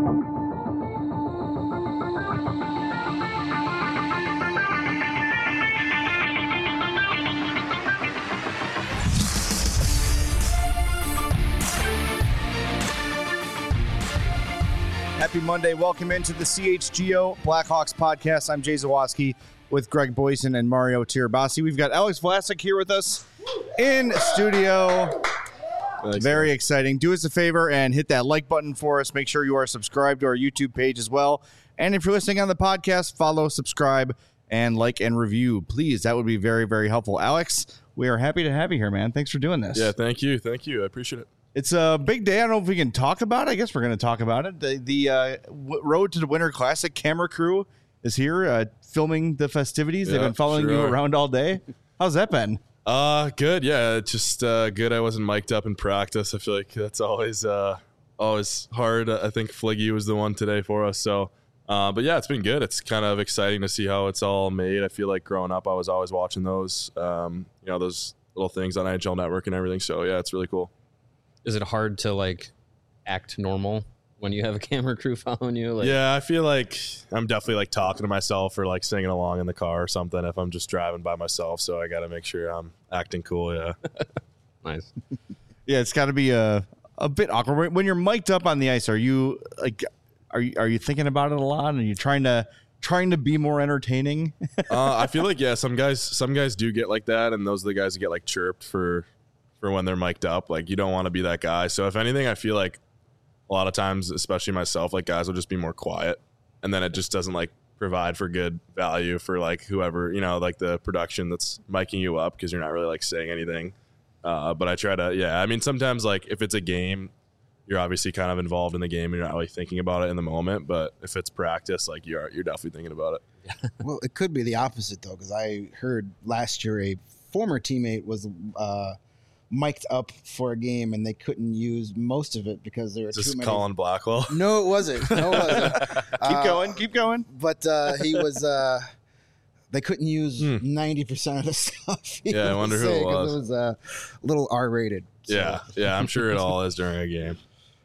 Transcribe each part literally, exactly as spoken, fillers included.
Happy Monday. Welcome into the C H G O Blackhawks podcast. I'm Jay Zawaski with Greg Boyson and Mario Tirabassi. We've got Alex Vlasic here with us in studio. Thanks, Very man. exciting. Do us a favor and hit that like button for us. Make sure you are subscribed to our YouTube page as well. And if you're listening on the podcast, follow, subscribe, and like and review. Please, that would be very, very helpful. Alex, we are happy to have you here, man. Thanks for doing this. Yeah, thank you. Thank you. I appreciate it. It's a big day. I don't know if we can talk about it. I guess we're going to talk about it. The, the uh, w- Road to the Winter Classic camera crew is here uh, filming the festivities. Yeah, They've been following sure you are. around all day. How's that been? Uh, good. Yeah, it's just uh, good. I wasn't mic'd up in practice. I feel like that's always uh, always hard. I think Fliggy was the one today for us. So, uh, but yeah, it's been good. It's kind of exciting to see how it's all made. I feel like growing up, I was always watching those, um, you know, those little things on N H L Network and everything. So yeah, it's really cool. Is it hard to like act normal when you have a camera crew following you? Like, yeah, I feel like I'm definitely like talking to myself or like singing along in the car or something if I'm just driving by myself. So I got to make sure I'm acting cool. Yeah. Nice. Yeah, it's got to be a a bit awkward when you're mic'd up on the ice. Are you like, are you are you thinking about it a lot? And you trying to trying to be more entertaining? uh, I feel like yeah, some guys some guys do get like that, and those are the guys that get like chirped for. for when they're mic'd up. Like, you don't want to be that guy. So if anything, I feel like a lot of times, especially myself, like guys will just be more quiet, and then it just doesn't like provide for good value for like whoever, you know, like the production that's micing you up, because you're not really like saying anything. Uh, but I try to, yeah, I mean, sometimes like if it's a game, you're obviously kind of involved in the game and you're not really thinking about it in the moment. But if it's practice, like you're, you're definitely thinking about it. Well, it could be the opposite though, because I heard last year a former teammate was, uh, mic'd up for a game and they couldn't use most of it because there were Is too this many. Colin Blackwell? No, it wasn't. No, it wasn't. keep Uh, going, keep going. But uh, he was. Uh, they couldn't use Hmm. ninety percent of the stuff. he Yeah, I wonder who it saying, 'cause was. It was uh, a little R-rated. So. Yeah, yeah, I'm sure it all is during a game.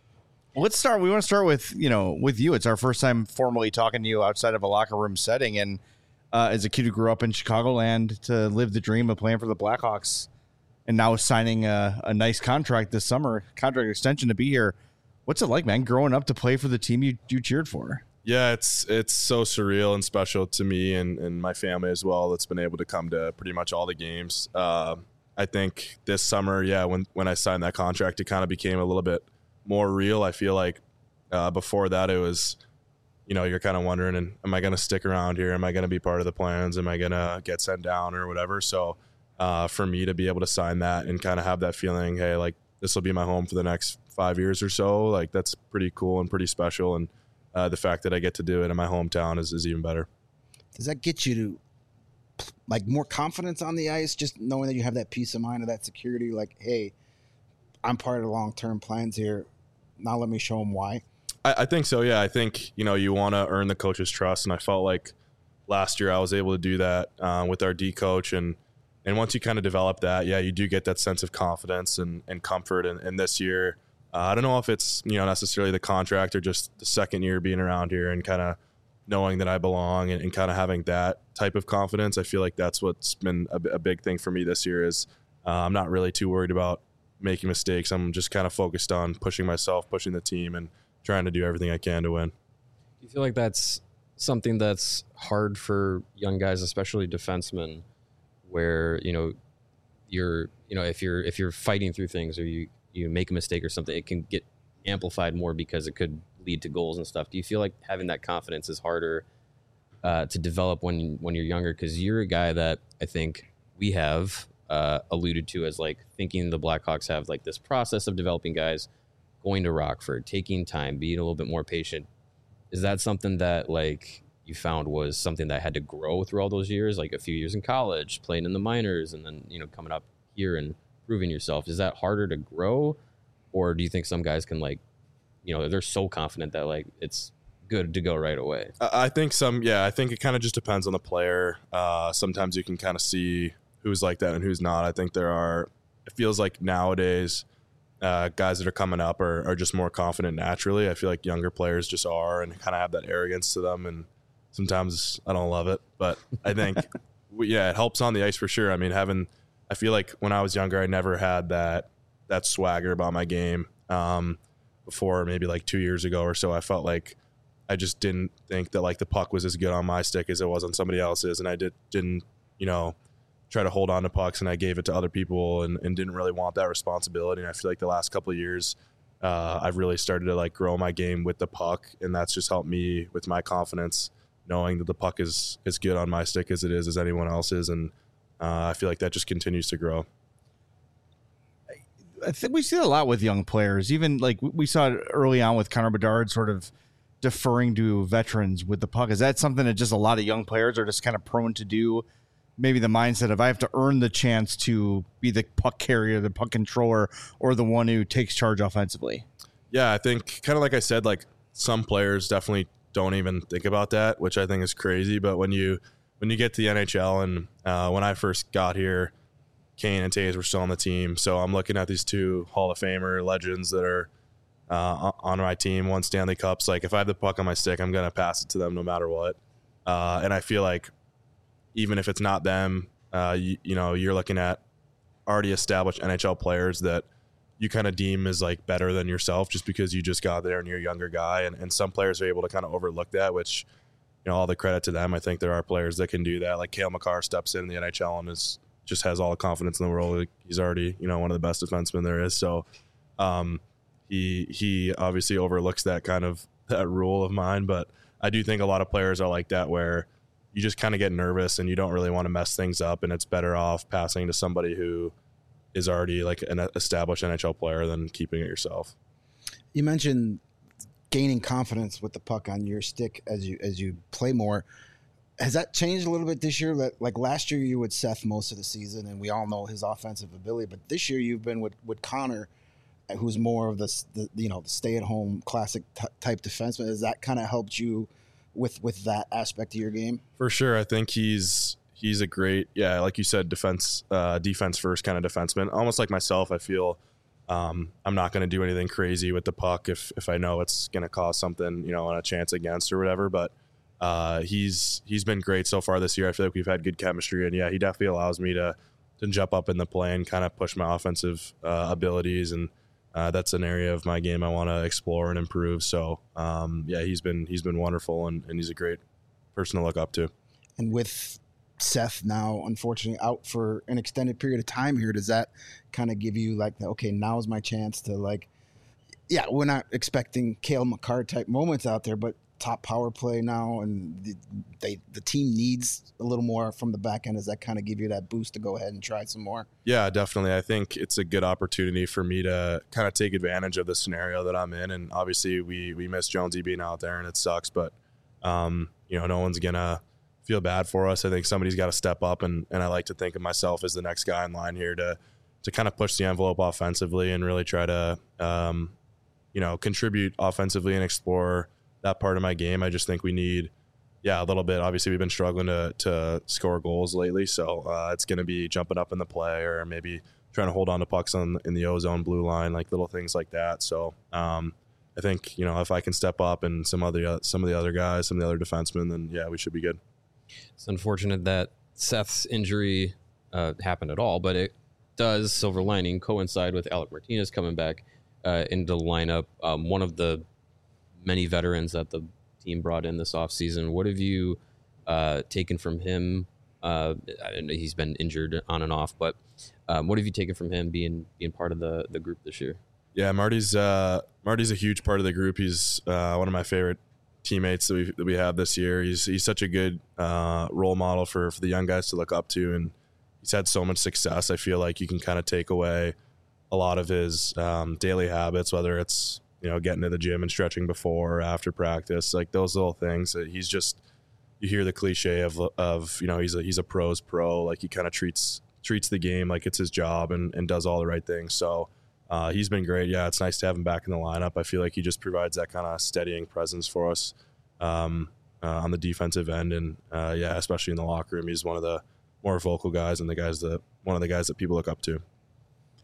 Let's start. We want to start with, you know, with you. It's our first time formally talking to you outside of a locker room setting. And uh, as a kid who grew up in Chicagoland to live the dream of playing for the Blackhawks and now signing a, a nice contract this summer, contract extension to be here. What's it like, man, growing up to play for the team you, you cheered for? Yeah, it's it's so surreal and special to me and, and my family as well that's been able to come to pretty much all the games. Uh, I think this summer, yeah, when, when I signed that contract, it kind of became a little bit more real. I feel like uh, before that it was, you know, you're kind of wondering, and am I going to stick around here? Am I going to be part of the plans? Am I going to get sent down or whatever? So uh, for me to be able to sign that and kind of have that feeling, hey, like this will be my home for the next five years or so, like that's pretty cool and pretty special. And uh, the fact that I get to do it in my hometown is, is even better. Does that get you to like more confidence on the ice, just knowing that you have that peace of mind of that security? Like, hey, I'm part of the long-term plans here. Now let me show them why. I, I think so. Yeah. I think, you know, you want to earn the coach's trust. And I felt like last year I was able to do that uh, with our D coach. And, and once you kind of develop that, yeah, you do get that sense of confidence and, and comfort. And, and this year, uh, I don't know if it's, you know, necessarily the contract or just the second year being around here and kind of knowing that I belong and, and kind of having that type of confidence. I feel like that's what's been a, a big thing for me this year is uh, I'm not really too worried about making mistakes. I'm just kind of focused on pushing myself, pushing the team, and trying to do everything I can to win. Do you feel like that's something that's hard for young guys, especially defensemen, where, you know, you're, you know, if you're, if you're fighting through things or you, you make a mistake or something, it can get amplified more because it could lead to goals and stuff. Do you feel like having that confidence is harder uh, to develop when, when you're younger? Cause you're a guy that I think we have uh, alluded to as like thinking the Blackhawks have like this process of developing guys, going to Rockford, taking time, being a little bit more patient. Is that something that like you found was something that had to grow through all those years, like a few years in college, playing in the minors, and then, you know, coming up here and proving yourself? Is that harder to grow? Or do you think some guys can like, you know, they're so confident that like it's good to go right away? I think some, yeah, I think it kind of just depends on the player. Uh, sometimes you can kind of see who's like that and who's not. I think there are, it feels like nowadays, uh, guys that are coming up are, are just more confident naturally. I feel like younger players just are and kind of have that arrogance to them. And sometimes I don't love it, but I think, yeah, it helps on the ice for sure. I mean, having, I feel like when I was younger, I never had that, that swagger about my game. Um, before maybe like two years ago or so, I felt like I just didn't think that like the puck was as good on my stick as it was on somebody else's. And I did, didn't, you know, try to hold on to pucks, and I gave it to other people and, and didn't really want that responsibility. And I feel like the last couple of years, uh, I've really started to like grow my game with the puck, and that's just helped me with my confidence, knowing that the puck is as good on my stick as it is as anyone else's. And uh, I feel like that just continues to grow. I think we see that a lot with young players. Even like we saw it early on with Connor Bedard sort of deferring to veterans with the puck. Is that something that just a lot of young players are just kind of prone to do? Maybe the mindset of I have to earn the chance to be the puck carrier, the puck controller, or the one who takes charge offensively. Yeah, I think kind of like I said, like some players definitely don't even think about that, which I think is crazy. But when you when you get to the N H L, and uh, when I first got here, Kane and Taves were still on the team. So I'm looking at these two Hall of Famer legends that are uh, on my team, won Stanley Cups. Like if I have the puck on my stick, I'm going to pass it to them no matter what. Uh, and I feel like even if it's not them, uh, you, you know, you're looking at already established N H L players that you kind of deem as like better than yourself just because you just got there and you're a younger guy. And, and some players are able to kind of overlook that, which, you know, all the credit to them. I think there are players that can do that. Like Cale Makar steps in the N H L and is just has all the confidence in the world. He's already, you know, one of the best defensemen there is. So um, he he obviously overlooks that kind of that rule of mine. But I do think a lot of players are like that, where you just kind of get nervous and you don't really want to mess things up, and it's better off passing to somebody who is already like an established N H L player than keeping it yourself. You mentioned gaining confidence with the puck on your stick as you as you play more. Has that changed a little bit this year? Like last year, you were with Seth most of the season, and we all know his offensive ability. But this year, you've been with, with Connor, who's more of the, the you know the stay at home classic t- type defenseman. Has that kind of helped you with with that aspect of your game? For sure. I think he's he's a great, yeah, like you said, defense uh, defense first kind of defenseman. Almost like myself, I feel um, I'm not going to do anything crazy with the puck if if I know it's going to cause something, you know, on a chance against or whatever. But uh, he's he's been great so far this year. I feel like we've had good chemistry, and yeah, he definitely allows me to to jump up in the play and kind of push my offensive uh, abilities, and Uh, that's an area of my game I want to explore and improve. So, um, yeah, he's been he's been wonderful, and, and he's a great person to look up to. And with Seth now, unfortunately, out for an extended period of time here, does that kind of give you like, the, okay, now's my chance to like, yeah, we're not expecting Cale Makar type moments out there, but top power play now, and the, they the team needs a little more from the back end. Does that kind of give you that boost to go ahead and try some more? Yeah, definitely. I think it's a good opportunity for me to kind of take advantage of the scenario that I'm in. And obviously we we miss Jonesy being out there, and it sucks, but um, you know, no one's gonna feel bad for us. I think somebody's got to step up, and and I like to think of myself as the next guy in line here to to kind of push the envelope offensively and really try to um, you know, contribute offensively and explore that part of my game. I just think we need, yeah, a little bit. Obviously, we've been struggling to to score goals lately, so uh, it's going to be jumping up in the play, or maybe trying to hold on to pucks on in the O-zone blue line, like little things like that. So um, I think, you know, if I can step up and some other some of the other guys, some of the other defensemen, then yeah, we should be good. It's unfortunate that Seth's injury uh, happened at all, but it does, silver lining, coincide with Alec Martinez coming back uh, into the lineup. Um, one of the many veterans that the team brought in this offseason. What have you uh, taken from him? Uh, I know he's been injured on and off, but um, what have you taken from him being being part of the, the group this year? Yeah, Marty's uh, Marty's a huge part of the group. He's uh, one of my favorite teammates that we that we have this year. He's he's such a good uh, role model for, for the young guys to look up to, and he's had so much success. I feel like you can kind of take away a lot of his um, daily habits, whether it's, you know, getting to the gym and stretching before or after practice, like those little things that he's just, you hear the cliche of, of, you know, he's a, he's a pro's pro. Like he kind of treats, treats the game like it's his job, and, and does all the right things. So uh, he's been great. Yeah. It's nice to have him back in the lineup. I feel like he just provides that kind of steadying presence for us um, uh, on the defensive end. And uh, yeah, especially in the locker room, he's one of the more vocal guys, and the guys that, one of the guys that people look up to.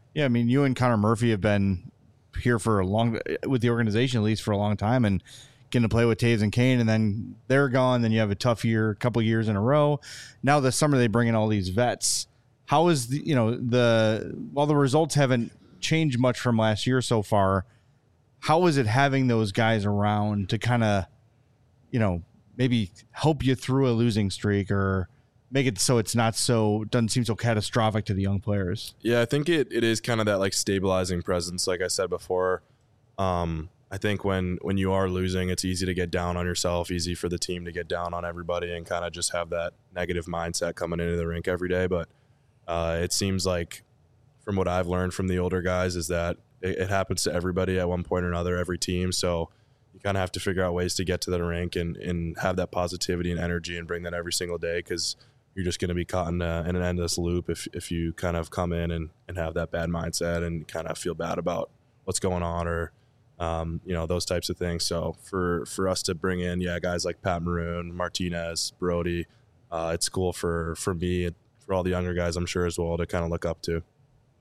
Yeah, I mean, you and Connor Murphy have been here for a long, with the organization at least for a long time, and getting to play with Taves and Kane, and then they're gone. Then you have a tough year, a couple years in a row. Now this summer they bring in all these vets. How is the, you know, the, while the results haven't changed much from last year so far, how is it having those guys around to kind of, you know, maybe help you through a losing streak or make it so it's not so, doesn't seem so catastrophic to the young players? Yeah, I think it, it is kind of that like stabilizing presence. Like I said before, um, I think when, when you are losing, it's easy to get down on yourself, easy for the team to get down on everybody and kind of just have that negative mindset coming into the rink every day. But uh, it seems like from what I've learned from the older guys is that it, it happens to everybody at one point or another, every team. So you kind of have to figure out ways to get to the rink and, and have that positivity and energy and bring that every single day, because you're just going to be caught in, a, in an endless loop if, if you kind of come in and, and have that bad mindset and kind of feel bad about what's going on or, um, you know, those types of things. So for, for us to bring in, yeah, guys like Pat Maroon, Martinez, Brody, uh, it's cool for, for me and for all the younger guys, I'm sure as well, to kind of look up to.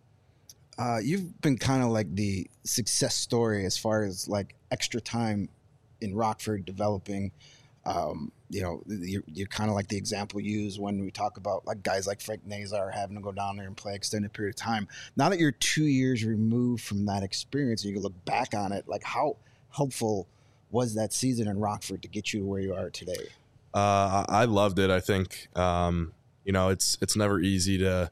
Uh, you've been kind of like the success story as far as like extra time in Rockford developing. Um, you know, you're, you're kind of like the example used when we talk about like guys like Frank Nazar having to go down there and play extended period of time. Now that you're two years removed from that experience and you can look back on it, like how helpful was that season in Rockford to get you to where you are today? Uh, I loved it. I think, um, you know, it's, it's never easy to,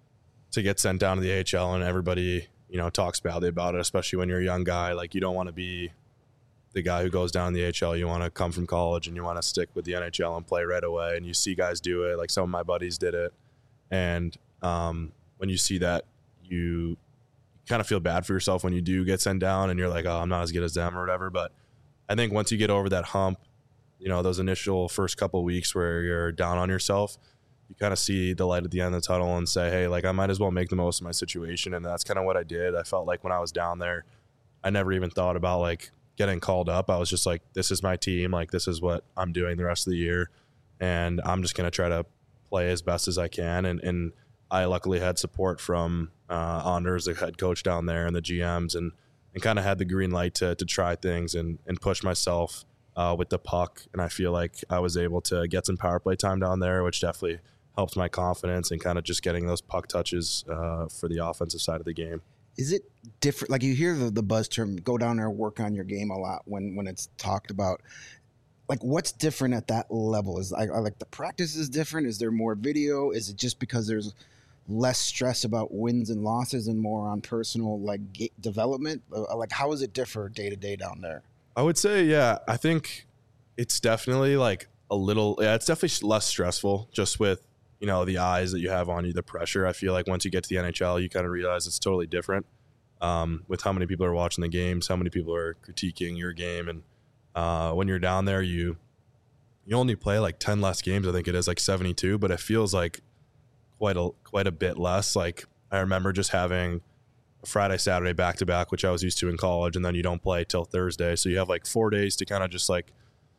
to get sent down to the A H L and everybody, you know, talks badly about it, especially when you're a young guy. Like you don't want to be the guy who goes down to the A H L. You want to come from college and you want to stick with the N H L and play right away. And you see guys do it. Like some of my buddies did it. And um, when you see that, you kind of feel bad for yourself when you do get sent down and you're like, oh, I'm not as good as them or whatever. But I think once you get over that hump, you know, those initial first couple of weeks where you're down on yourself, you kind of see the light at the end of the tunnel and say, hey, like I might as well make the most of my situation. And that's kind of what I did. I felt like when I was down there, I never even thought about like getting called up. I was just like, this is my team. Like, this is what I'm doing the rest of the year. And I'm just going to try to play as best as I can. And, and I luckily had support from uh, Anders, the head coach down there, and the G Ms, and, and kind of had the green light to, to try things and, and push myself uh, with the puck. And I feel like I was able to get some power play time down there, which definitely helped my confidence and kind of just getting those puck touches uh, for the offensive side of the game. Is it different? Like you hear the, the buzz term, go down there and work on your game a lot when, when it's talked about. Like what's different at that level? Is like, like the practice is different? Is there more video? Is it just because there's less stress about wins and losses and more on personal like g- development? Like how does it differ day to day down there? I would say, yeah, I think it's definitely like a little, yeah, it's definitely less stressful just with, you know, the eyes that you have on you, the pressure. I feel like once you get to the N H L, you kind of realize it's totally different um, with how many people are watching the games, how many people are critiquing your game. And uh, when you're down there, you you only play like ten less games. I think it is like seventy-two, but it feels like quite a quite a bit less. Like I remember just having a Friday, Saturday back-to-back, which I was used to in college, and then you don't play till Thursday. So you have like four days to kind of just like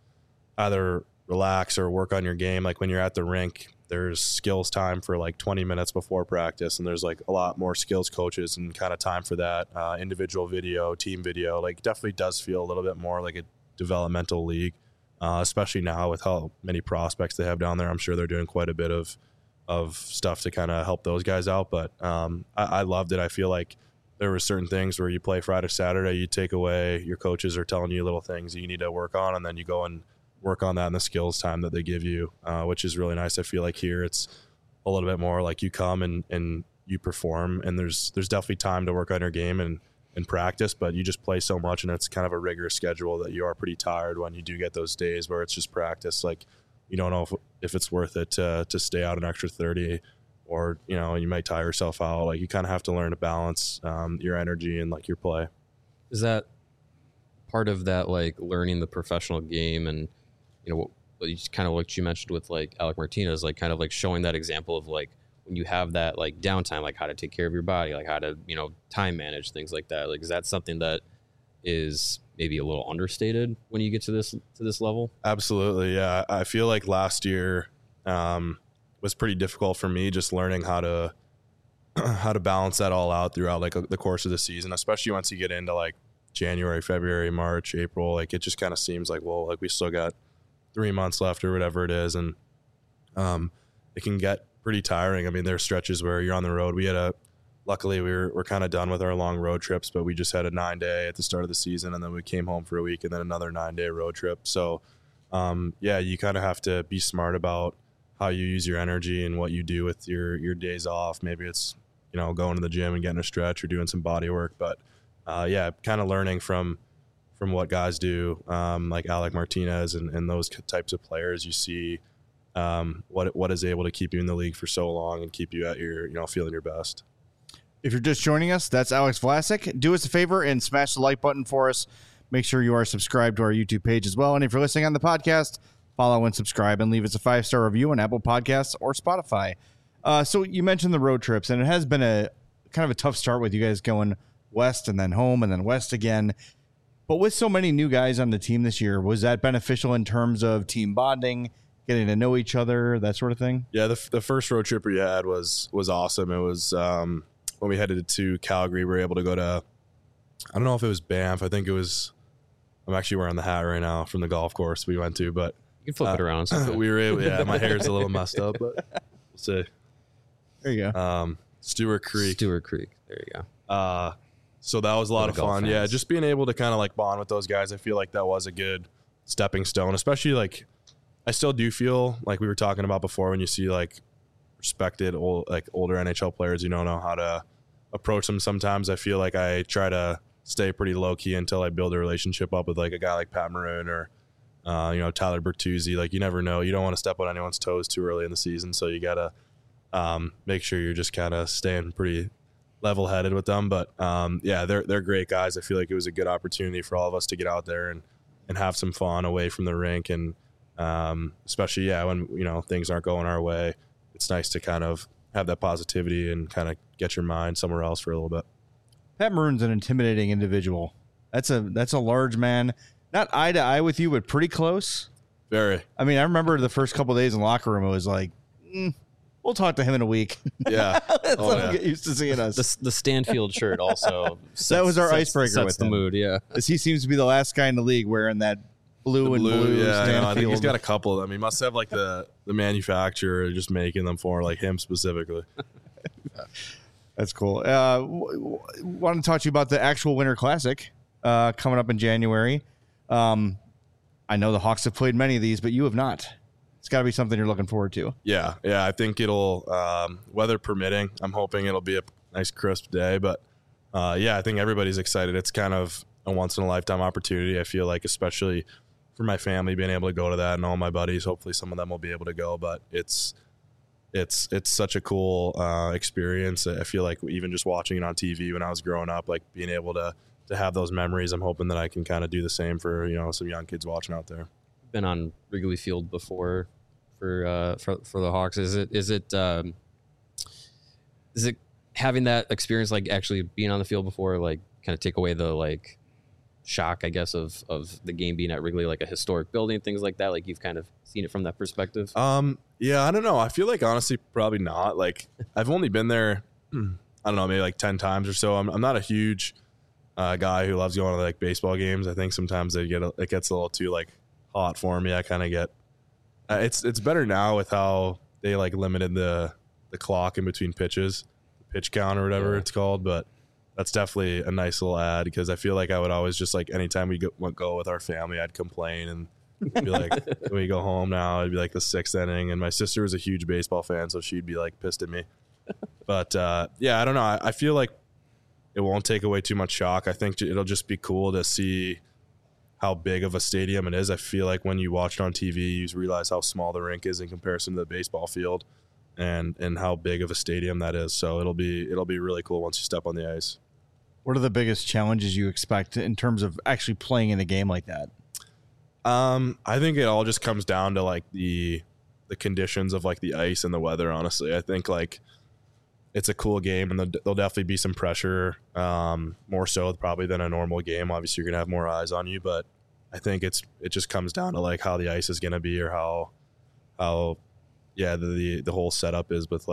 either relax or work on your game. Like when you're at the rink, there's skills time for like twenty minutes before practice, and there's like a lot more skills coaches and kind of time for that. Uh, individual video, team video, like definitely does feel a little bit more like a developmental league, uh, especially now with how many prospects they have down there. I'm sure they're doing quite a bit of of stuff to kind of help those guys out. But um, I, I loved it. I feel like there were certain things where you play Friday, Saturday, you take away, your coaches are telling you little things that you need to work on, and then you go and work on that in the skills time that they give you, uh, which is really nice. I feel like here it's a little bit more like you come and, and you perform, and there's there's definitely time to work on your game and, and practice, but you just play so much, and it's kind of a rigorous schedule that you are pretty tired when you do get those days where it's just practice. Like you don't know if, if it's worth it to, to stay out an extra thirty, or, you know, you might tire yourself out. Like you kind of have to learn to balance um, your energy and like your play. Is that part of that, like learning the professional game and, you know, what you kind of what you mentioned with like Alec Martinez, like kind of like showing that example of like when you have that like downtime, like how to take care of your body, like how to, you know, time manage things like that. Like, is that something that is maybe a little understated when you get to this, to this level? Absolutely. Yeah. I feel like last year um, was pretty difficult for me, just learning how to how to balance that all out throughout like the course of the season, especially once you get into like January, February, March, April. Like it just kind of seems like, well, like we still got three months left or whatever it is, and um, it can get pretty tiring. I mean, there are stretches where you're on the road. We had a Luckily, we were we're kind of done with our long road trips, but we just had a nine day at the start of the season, and then we came home for a week, and then another nine day road trip. So, um, yeah, you kind of have to be smart about how you use your energy and what you do with your your days off. Maybe it's you know going to the gym and getting a stretch or doing some body work, but uh, yeah, kind of learning from from what guys do, um, like Alec Martinez and, and those types of players. You see um, what what is able to keep you in the league for so long and keep you at your you know feeling your best. If you're just joining us, that's Alex Vlasic. Do us a favor and smash the like button for us. Make sure you are subscribed to our YouTube page as well. And if you're listening on the podcast, follow and subscribe and leave us a five-star review on Apple Podcasts or Spotify. Uh, so you mentioned the road trips, and it has been a kind of a tough start with you guys going west and then home and then west again. But with so many new guys on the team this year, was that beneficial in terms of team bonding, getting to know each other, that sort of thing? Yeah, the, the first road trip we had was was awesome. It was um, – when we headed to Calgary, we were able to go to, I don't know if it was Banff. I think it was, I'm actually wearing the hat right now from the golf course we went to, but you can flip uh, it around. So we were able, yeah, my hair's a little messed up, but we'll see. There you go. Um, Stewart Creek. Stewart Creek. There you go. Uh, so that was a lot of fun. Yeah, just being able to kind of like bond with those guys. I feel like that was a good stepping stone, especially like I still do feel like we were talking about before when you see like respected old, like older N H L players, you don't know how to approach them. Sometimes I feel like I try to stay pretty low key until I build a relationship up with like a guy like Pat Maroon or uh, you know Tyler Bertuzzi. Like you never know. You don't want to step on anyone's toes too early in the season, so you gotta um, make sure you're just kind of staying pretty level headed with them. But um, yeah, they're they're great guys. I feel like it was a good opportunity for all of us to get out there and and have some fun away from the rink, and um, especially yeah when you know things aren't going our way. It's nice to kind of have that positivity and kind of get your mind somewhere else for a little bit. Pat Maroon's an intimidating individual. That's a that's a large man. Not eye to eye with you, but pretty close. Very. I mean, I remember the first couple of days in the locker room, it was like, mm, we'll talk to him in a week. Yeah. Let's oh, let yeah. him get used to seeing us. The, the Stanfield shirt also. Sets, that was our sets, icebreaker sets with the him. mood, yeah. As he seems to be the last guy in the league wearing that blue, The and blue, blue yeah, I, know. I think he's Stanfield. got a couple of them. He must have like the the manufacturer just making them for like him specifically. That's cool. Uh, w- w- want to talk to you about the actual Winter Classic uh, coming up in January. Um, I know the Hawks have played many of these, but you have not. It's got to be something you're looking forward to. Yeah, yeah. I think it'll um, weather permitting. I'm hoping it'll be a nice crisp day, but uh, yeah, I think everybody's excited. It's kind of a once in a lifetime opportunity. I feel like, especially for my family, being able to go to that, and all my buddies. Hopefully, some of them will be able to go. But it's it's it's such a cool uh, experience. I feel like even just watching it on T V when I was growing up, like being able to to have those memories. I'm hoping that I can kind of do the same for you know some young kids watching out there. Been on Wrigley Field before for uh, for for the Hawks. Is it is it um, is it having that experience, like actually being on the field before, like kind of take away the like shock, I guess, of of the game being at Wrigley, like a historic building, things like that? Like you've kind of seen it from that perspective. Um, yeah, I don't know. I feel like honestly, probably not. Like I've only been there, I don't know, maybe like ten times or so. I'm I'm not a huge uh, guy who loves going to like baseball games. I think sometimes they get a, it gets a little too like hot for me. I kind of get. Uh, it's it's better now with how they like limited the the clock in between pitches, pitch count or whatever Yeah. it's called, but. That's definitely a nice little ad because I feel like I would always just like anytime we go, went go with our family, I'd complain and be like, when we go home now, it'd be like the sixth inning. And my sister was a huge baseball fan, so she'd be like pissed at me. But uh, yeah, I don't know. I, I feel like it won't take away too much shock. I think it'll just be cool to see how big of a stadium it is. I feel like when you watch it on T V, you realize how small the rink is in comparison to the baseball field. And, and how big of a stadium that is. So it'll be it'll be really cool once you step on the ice. What are the biggest challenges you expect in terms of actually playing in a game like that? Um, I think it all just comes down to like the the conditions of like the ice and the weather. Honestly, I think like it's a cool game, and there'll, there'll definitely be some pressure, um, more so probably than a normal game. Obviously, you're gonna have more eyes on you, but I think it's it just comes down to like how the ice is gonna be or how how yeah the the, the whole setup is with like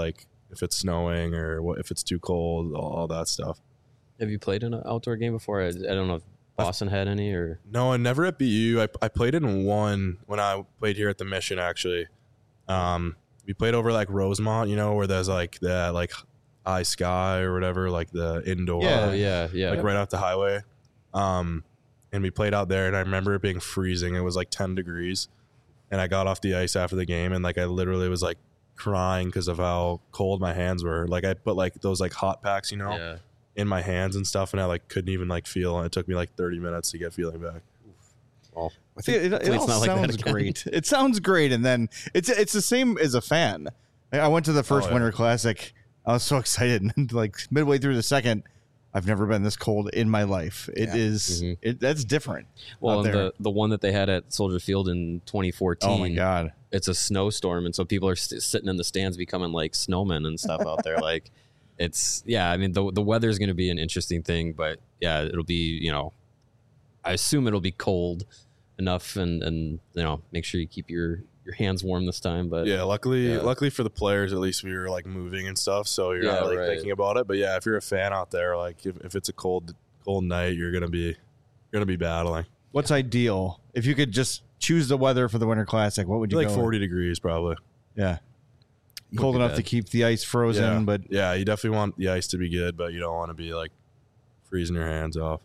if it's snowing or what, if it's too cold, all, all that stuff. Have you played in an outdoor game before? I, I don't know if Boston had any or. No, I never at B U. I, I played in one when I played here at the Mission, actually. Um, we played over like Rosemont, you know, where there's like that like high sky or whatever, like the indoor. Yeah, oh, yeah, yeah. Like right off the highway. Um, and we played out there, and I remember it being freezing. It was like ten degrees. And I got off the ice after the game, and like I literally was like crying because of how cold my hands were. Like I put like those like hot packs, you know, Yeah. in my hands and stuff, and I like couldn't even like feel. And it took me like thirty minutes to get feeling back. Well, I think it, it, it all not like that sounds again. great. It sounds great, and then it's it's the same as a fan. I went to the first Oh, yeah. Winter Classic. I was so excited, and like midway through the second, I've never been this cold in my life. It Yeah. is Mhm. it that's different. well, out and there. the the one that they had at Soldier Field in twenty fourteen. Oh my god! It's a snowstorm, and so people are st- sitting in the stands becoming like snowmen and stuff out there. Like, it's yeah. I mean, the the weather is going to be an interesting thing, but yeah, it'll be you know, I assume it'll be cold enough, and and you know, make sure you keep your your hands warm this time. But Yeah, luckily, Yeah. luckily for the players, at least we were like moving and stuff, so you're Yeah, not like right. thinking about it. But yeah, if you're a fan out there, like if, if it's a cold cold night, you're gonna be you're gonna be battling. What's ideal if you could just choose the weather for the Winter Classic? What would you Like go forty degrees probably. with? Yeah, Would cold be enough bad. to keep the ice frozen, yeah, but yeah, you definitely want the ice to be good, but you don't want to be like freezing your hands off.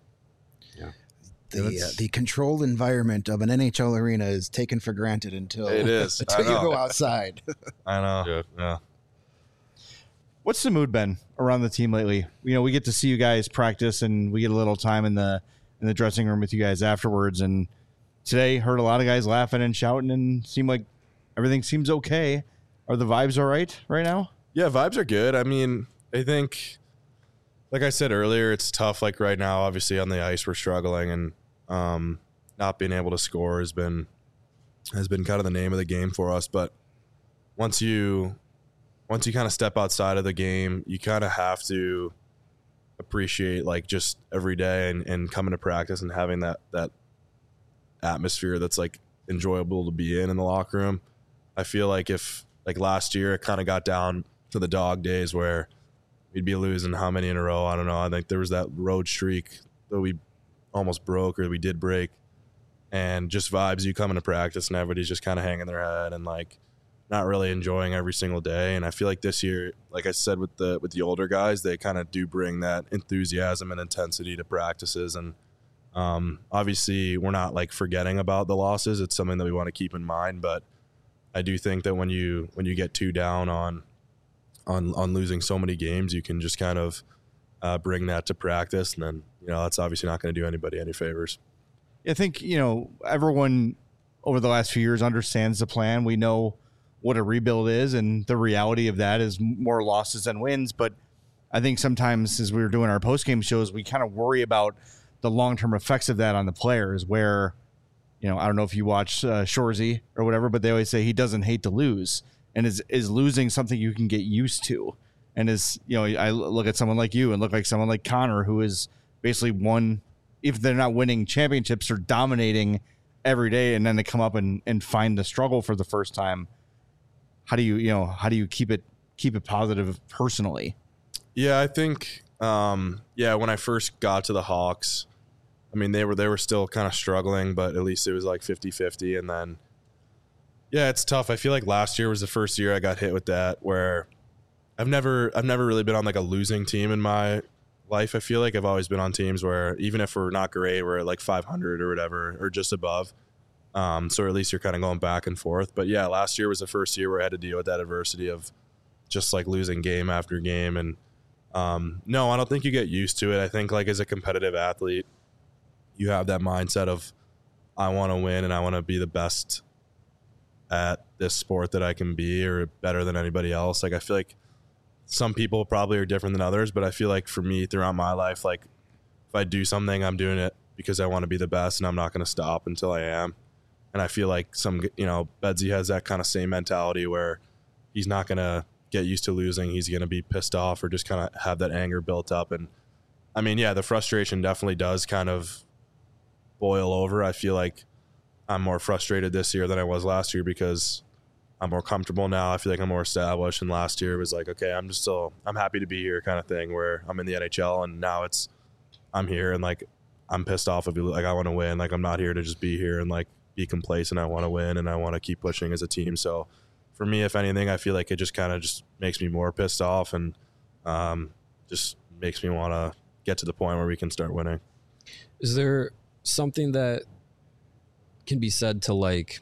The, uh, That's- the controlled environment of an N H L arena is taken for granted until It is. I until you know. go outside. I know. Yeah. Yeah. what's the mood been around the team lately? You know, we get to see you guys practice, and we get a little time in the in the dressing room with you guys afterwards. And today, heard a lot of guys laughing and shouting, and seemed like everything seems okay. Are the vibes all right right now? Yeah, vibes are good. I mean, I think, like I said earlier, it's tough. Like right now, obviously on the ice, we're struggling, and um, not being able to score has been has been kind of the name of the game for us. But once you once you kind of step outside of the game, you kind of have to appreciate like just every day and, and coming to practice and having that that atmosphere that's like enjoyable to be in in the locker room. I feel like if like last year it kind of got down to the dog days where we'd be losing how many in a row, I don't know. I think there was that road streak that we almost broke or we did break, and just vibes, you come into practice and everybody's just kind of hanging their head and like not really enjoying every single day. And I feel like this year, like I said, with the with the older guys, they kind of do bring that enthusiasm and intensity to practices. And um, obviously we're not like forgetting about the losses. It's something that we want to keep in mind, but I do think that when you when you get too down on on on losing so many games, you can just kind of uh, bring that to practice, and then you know that's obviously not going to do anybody any favors. I think, you know, everyone over the last few years understands the plan. We know what a rebuild is, and the reality of that is more losses than wins. But I think sometimes as we were doing our post-game shows, we kind of worry about the long-term effects of that on the players where, you know, I don't know if you watch uh, Shoresy or whatever, but they always say he doesn't hate to lose. And is is losing something you can get used to? And is, you know, I look at someone like you and look like someone like Connor, who is basically won, if they're not winning championships, or dominating every day, and then they come up and, and find the struggle for the first time. How do you, you know, how do you keep it keep it positive personally? Yeah, I think, um, yeah, when I first got to the Hawks, I mean, they were they were still kind of struggling, but at least it was like fifty-fifty. And then, yeah, it's tough. I feel like last year was the first year I got hit with that, where I've never I've never really been on like a losing team in my life. I feel like I've always been on teams where even if we're not great, we're at like five hundred or whatever, or just above. Um, so at least you're kind of going back and forth. But yeah, last year was the first year where I had to deal with that adversity of just like losing game after game. And um, no, I don't think you get used to it. I think like as a competitive athlete, you have that mindset of I want to win and I want to be the best at this sport that I can be, or better than anybody else. Like I feel like some people probably are different than others, but I feel like for me throughout my life, like if I do something, I'm doing it because I want to be the best, and I'm not going to stop until I am. And I feel like some, you know, Bedsy has that kind of same mentality where he's not going to get used to losing. He's going to be pissed off or just kind of have that anger built up. And I mean, yeah, the frustration definitely does kind of boil over. I feel like I'm more frustrated this year than I was last year because I'm more comfortable now. I feel like I'm more established. And last year was like, okay, I'm just still, I'm happy to be here kind of thing, where I'm in the N H L and now it's, I'm here and like, I'm pissed off if you like, I want to win. Like, I'm not here to just be here and like be complacent. I want to win and I want to keep pushing as a team. So for me, if anything, I feel like it just kind of just makes me more pissed off and um, just makes me want to get to the point where we can start winning. Is there something that can be said to like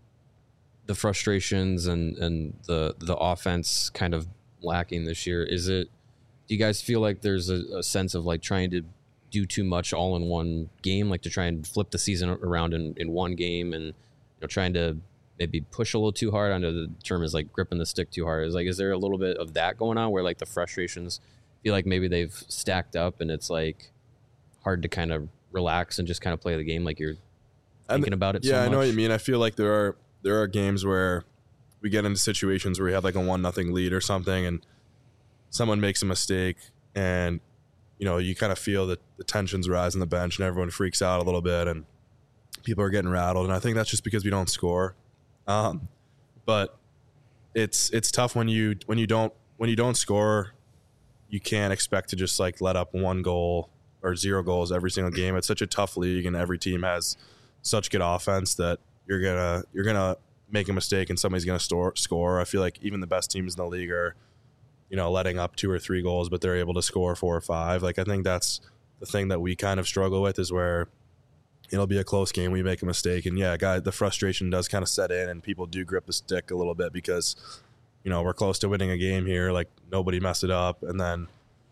the frustrations and, and the, the offense kind of lacking this year? Is it, do you guys feel like there's a, a sense of like trying to do too much all in one game, like to try and flip the season around in, in one game and, you know, trying to maybe push a little too hard? I know the term is like gripping the stick too hard. Is like, is there a little bit of that going on where like the frustrations feel like maybe they've stacked up and it's like hard to kind of relax and just kind of play the game like you're thinking and, about it yeah, so much? I know what you mean. I feel like there are there are games where we get into situations where we have like a one nothing lead or something and someone makes a mistake and, you know, you kind of feel that the tensions rise on the bench and everyone freaks out a little bit and people are getting rattled. And I think that's just because we don't score. Um, but it's it's tough when you when you don't when you don't score. You can't expect to just like let up one goal or zero goals every single game. It's such a tough league and every team has such good offense that you're gonna you're gonna make a mistake and somebody's gonna store, score. I feel like even the best teams in the league are, you know, letting up two or three goals, but they're able to score four or five. Like, I think that's the thing that we kind of struggle with, is where it'll be a close game, we make a mistake, and yeah, guy, the frustration does kind of set in, and people do grip the stick a little bit because, you know, we're close to winning a game here. Like, nobody messed it up, and then,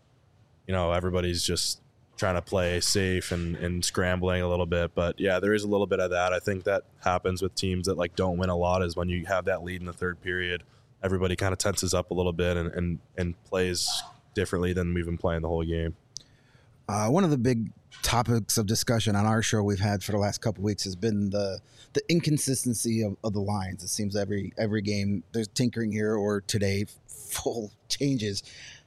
you know, everybody's just trying to play safe and, and scrambling a little bit. But yeah, there is a little bit of that. I think that happens with teams that like don't win a lot, is when you have that lead in the third period, everybody kind of tenses up a little bit and, and, and plays differently than we've been playing the whole game. Uh, one of the big topics of discussion on our show we've had for the last couple of weeks has been the the inconsistency of, of the lines. It seems every every game there's tinkering here, or today full changes.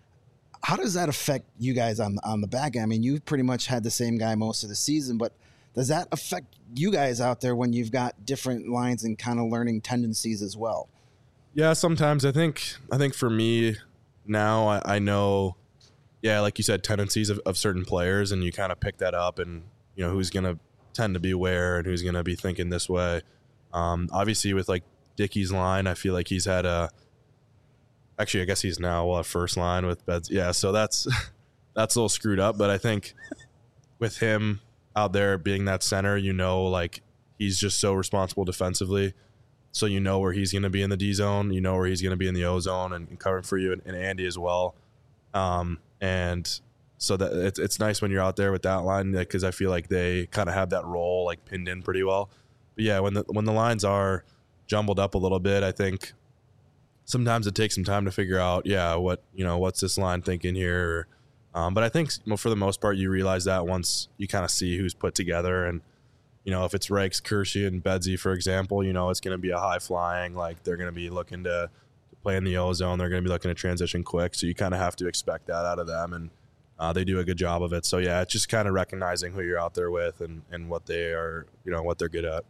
How does that affect you guys on on the back end? I mean, you've pretty much had the same guy most of the season, but does that affect you guys out there when you've got different lines and kind of learning tendencies as well? Yeah, sometimes I think I think for me now, I, I know, yeah, like you said, tendencies of, of certain players, and you kind of pick that up, and you know who's going to tend to be where and who's going to be thinking this way. Um, obviously, with like Dickey's line, I feel like he's had a. Actually, I guess he's now well, first line with Beds. Yeah, so that's that's a little screwed up. But I think with him out there being that center, you know, like he's just so responsible defensively. So you know where he's going to be in the D zone, you know where he's going to be in the O zone, and, and covering for you, and, and Andy as well. Um, and so that it's it's nice when you're out there with that line, because I feel like they kind of have that role like pinned in pretty well. But yeah, when the when the lines are jumbled up a little bit, I think sometimes it takes some time to figure out, yeah, what, you know, what's this line thinking here? Um, but I think for the most part, you realize that once you kind of see who's put together. And, you know, if it's Reichs, Kershey, and Bedsy, for example, you know, it's going to be a high flying, like they're going to be looking to, to play in the O zone. They're going to be looking to transition quick. So you kind of have to expect that out of them. And uh, they do a good job of it. So yeah, it's just kind of recognizing who you're out there with and, and what they are, you know, what they're good at.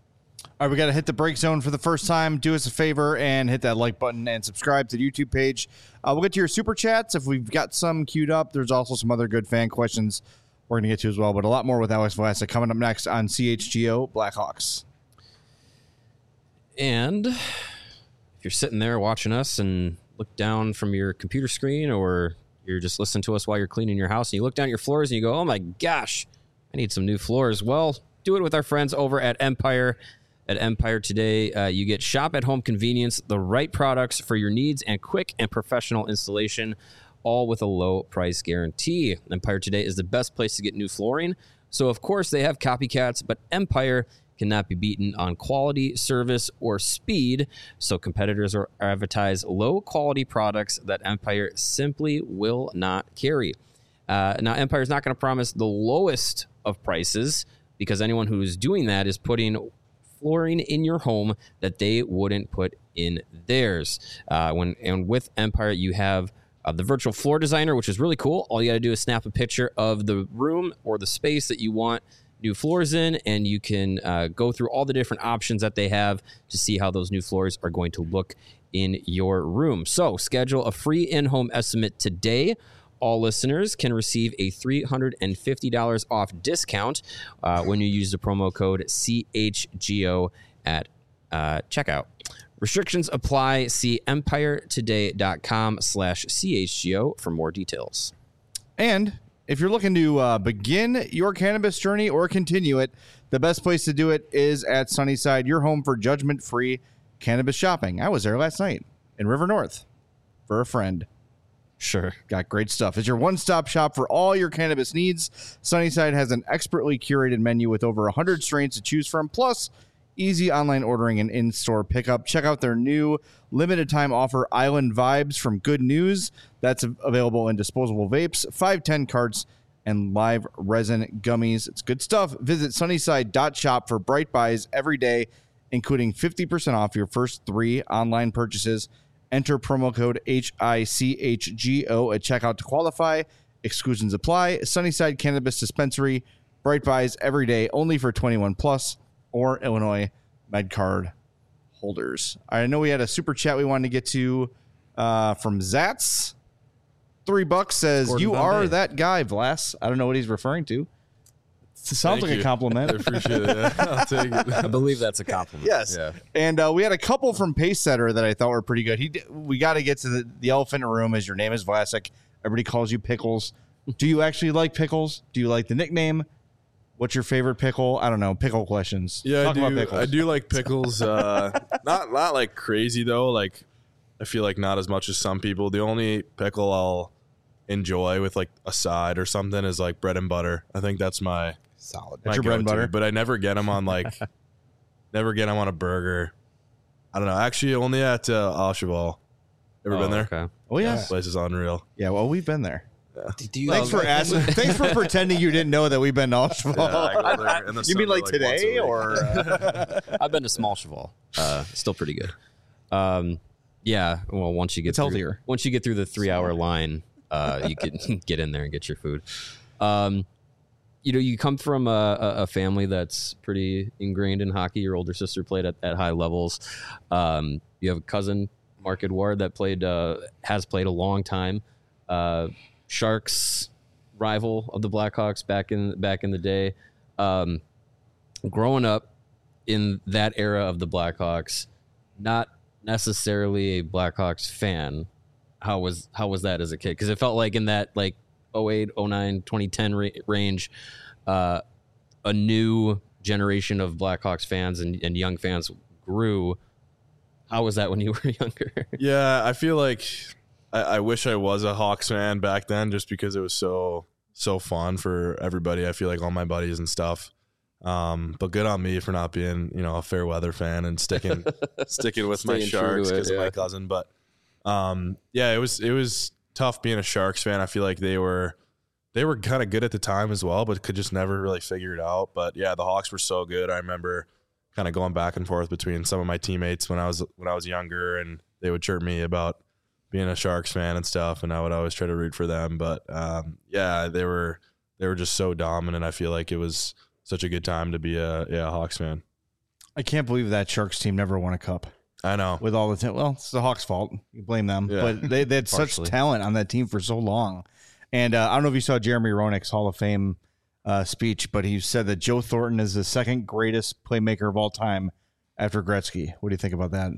All right, we got to hit the break zone for the first time. Do us a favor and hit that like button and subscribe to the YouTube page. Uh, we'll get to your super chats if we've got some queued up. There's also some other good fan questions we're going to get to as well, but a lot more with Alex Vlasic coming up next on C H G O Blackhawks. And if you're sitting there watching us and look down from your computer screen, or you're just listening to us while you're cleaning your house, and you look down at your floors and you go, oh my gosh, I need some new floors. Well, do it with our friends over at Empire. At Empire today, uh, you get shop-at-home convenience, the right products for your needs, and quick and professional installation, all with a low price guarantee. Empire today is the best place to get new flooring. So, of course, they have copycats, but Empire cannot be beaten on quality, service, or speed. So competitors are advertise low-quality products that Empire simply will not carry. Uh, now, Empire is not going to promise the lowest of prices, because anyone who is doing that is putting flooring in your home that they wouldn't put in theirs. Uh, when and with Empire, you have uh, the virtual floor designer, which is really cool. All you got to do is snap a picture of the room or the space that you want new floors in, and you can uh, go through all the different options that they have to see how those new floors are going to look in your room. So schedule a free in-home estimate today. All listeners can receive a three hundred fifty dollars off discount uh, when you use the promo code C H G O at uh, checkout. Restrictions apply. See empiretoday.com slash CHGO for more details. And if you're looking to uh, begin your cannabis journey or continue it, the best place to do it is at Sunnyside, your home for judgment-free cannabis shopping. I was there last night in River North for a friend. Sure. Got great stuff. It's your one-stop shop for all your cannabis needs. Sunnyside has an expertly curated menu with over one hundred strains to choose from, plus easy online ordering and in-store pickup. Check out their new limited-time offer, Island Vibes from Good News. That's available in disposable vapes, five ten carts, and live resin gummies. It's good stuff. Visit sunnyside dot shop for bright buys every day, including fifty percent off your first three online purchases. Enter promo code H I C H G O at checkout to qualify. Exclusions apply. Sunnyside Cannabis Dispensary. Bright buys every day, only for twenty-one plus or Illinois MedCard holders. I know we had a super chat we wanted to get to uh, from Zats. Three bucks says, Gordon you Bombay. are that guy, Vlas. I don't know what he's referring to. It sounds Thank like you. a compliment. I appreciate it. Yeah, I'll take it. I believe that's a compliment. Yes. Yeah. And uh, we had a couple from Pace Setter that I thought were pretty good. He did, we got to get to the, the elephant in the room. As your name is Vlasic, everybody calls you Pickles. Do you actually like pickles? Do you like the nickname? What's your favorite pickle? I don't know. Pickle questions. Yeah, Talk I about do. pickles. I do like pickles. Uh, not not like crazy though. Like I feel like not as much as some people. The only pickle I'll enjoy with like a side or something is like bread and butter. I think that's my Solid. my That's your bread and go-to, butter? But I never get them on like never get them on a burger. I don't know. Actually, only at uh, Al Cheval. Ever Oh, been there? Okay. Oh yeah. This place is unreal. Yeah. Well, we've been there. Do you Thanks for asking. Thanks for pretending you didn't know that we've been to Oshval. Yeah, I go there in the You mean summer, like once a today week. or? Uh, I've been to Small Cheval. Uh, still pretty good. Um, yeah. Well, once you get It's through, healthier. Once you get through the three-hour line, uh, you can get in there and get your food. Um, you know, you come from a, a a family that's pretty ingrained in hockey. Your older sister played at, at high levels. Um, you have a cousin, Mark Edouard, that played uh, has played a long time. Uh, Sharks rival of the Blackhawks back in back in the day. Um, growing up in that era of the Blackhawks, not necessarily a Blackhawks fan. How was how was that as a kid? Because it felt like in that like oh eight, oh nine, twenty ten ra- range, uh, a new generation of Blackhawks fans and, and young fans grew. How was that when you were younger? Yeah, I feel like I, I wish I was a Hawks fan back then, just because it was so so fun for everybody. I feel like all my buddies and stuff. Um, but good on me for not being, you know, a fair weather fan and sticking sticking with my Staying true to Sharks it, because of yeah. my cousin. But um, yeah, it was it was tough being a Sharks fan. I feel like they were they were kind of good at the time as well, but could just never really figure it out. But yeah, the Hawks were so good. I remember kind of going back and forth between some of my teammates when I was when I was younger, and they would chirp me about being a Sharks fan and stuff, and I would always try to root for them. But um, yeah, they were they were just so dominant. I feel like it was such a good time to be a yeah a Hawks fan. I can't believe that Sharks team never won a cup I know. with all the talent. Well, it's the Hawks' fault. You blame them, Yeah. but they, they had such Partially. talent on that team for so long. And uh, I don't know if you saw Jeremy Roenick's Hall of Fame uh, speech, but he said that Joe Thornton is the second greatest playmaker of all time after Gretzky. What do you think about that?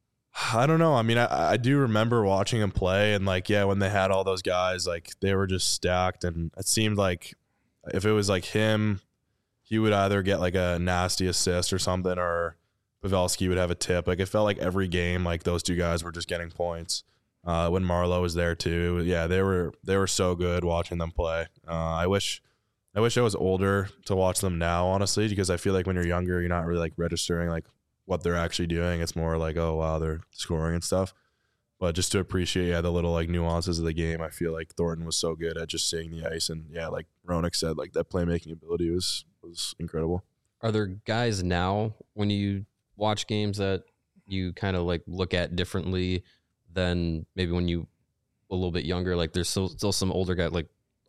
I don't know. I mean, I, I do remember watching him play, and like, yeah, when they had all those guys, like they were just stacked, and it seemed like if it was like him, he would either get like a nasty assist or something, or Pavelski would have a tip. Like it felt like every game, like those two guys were just getting points. Uh, when Marlowe was there too, yeah, they were they were so good watching them play. Uh, I wish, I wish I was older to watch them now, honestly, because I feel like when you're younger, you're not really like registering like what they're actually doing. It's more like, oh wow, they're scoring and stuff. But just to appreciate, yeah, the little like nuances of the game, I feel like Thornton was so good at just seeing the ice, and yeah, like Roenick said, like that playmaking ability was was incredible. Are there guys now when you watch games that you kind of like look at differently than maybe when you a little bit younger? Like there's still, still some older guys, like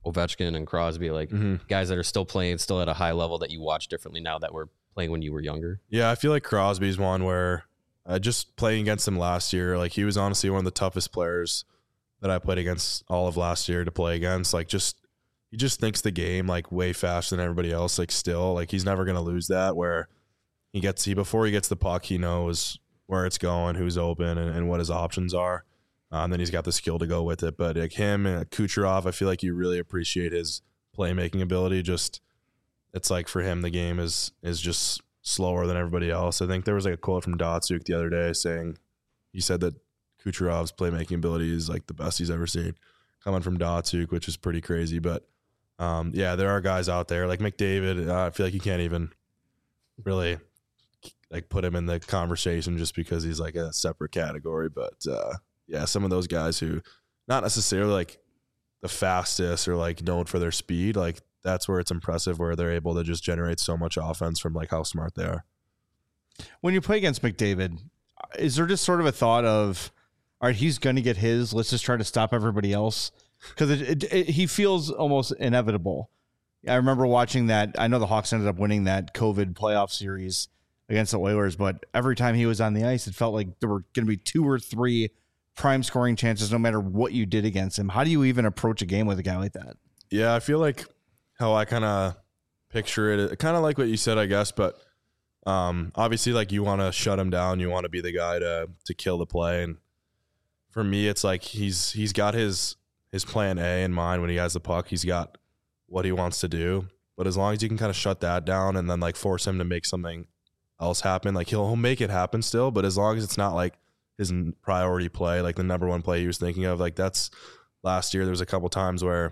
Ovechkin and Crosby, like Mm-hmm. guys that are still playing, still at a high level that you watch differently now that we're playing when you were younger? Yeah, I feel like Crosby's one where uh, just playing against him last year, like he was honestly one of the toughest players that I played against all of last year to play against. Like just he just thinks the game like way faster than everybody else. Like still, like he's never gonna lose that. Where he gets he before he gets the puck, he knows where it's going, who's open, and, and what his options are. Uh, and then he's got the skill to go with it. But like him and Kucherov, I feel like you really appreciate his playmaking ability. Just it's like for him, the game is is just slower than everybody else. I think there was like a quote from Datsuk the other day saying he said that Kucherov's playmaking ability is like the best he's ever seen coming from Datsuk, which is pretty crazy. But um, yeah, there are guys out there like McDavid. Uh, I feel like you can't even really like put him in the conversation just because he's like a separate category. But uh, yeah, some of those guys who not necessarily like the fastest or like known for their speed, like that's where it's impressive where they're able to just generate so much offense from like how smart they are. When you play against McDavid, is there just sort of a thought of, all right, he's going to get his, let's just try to stop everybody else? Because it, it, it, he feels almost inevitable. I remember watching that. I know the Hawks ended up winning that COVID playoff series against the Oilers, but every time he was on the ice, it felt like there were going to be two or three prime scoring chances no matter what you did against him. How do you even approach a game with a guy like that? Yeah, I feel like how I kind of picture it, kind of like what you said, I guess, but um, obviously like you want to shut him down. You want to be the guy to to kill the play. And for me, it's like he's he's got his his plan A in mind when he has the puck. He's got what he wants to do. But as long as you can kind of shut that down and then like force him to make something else happen, like he'll, he'll make it happen still. But as long as it's not like his priority play, like the number one play he was thinking of, like that's last year. There was a couple times where,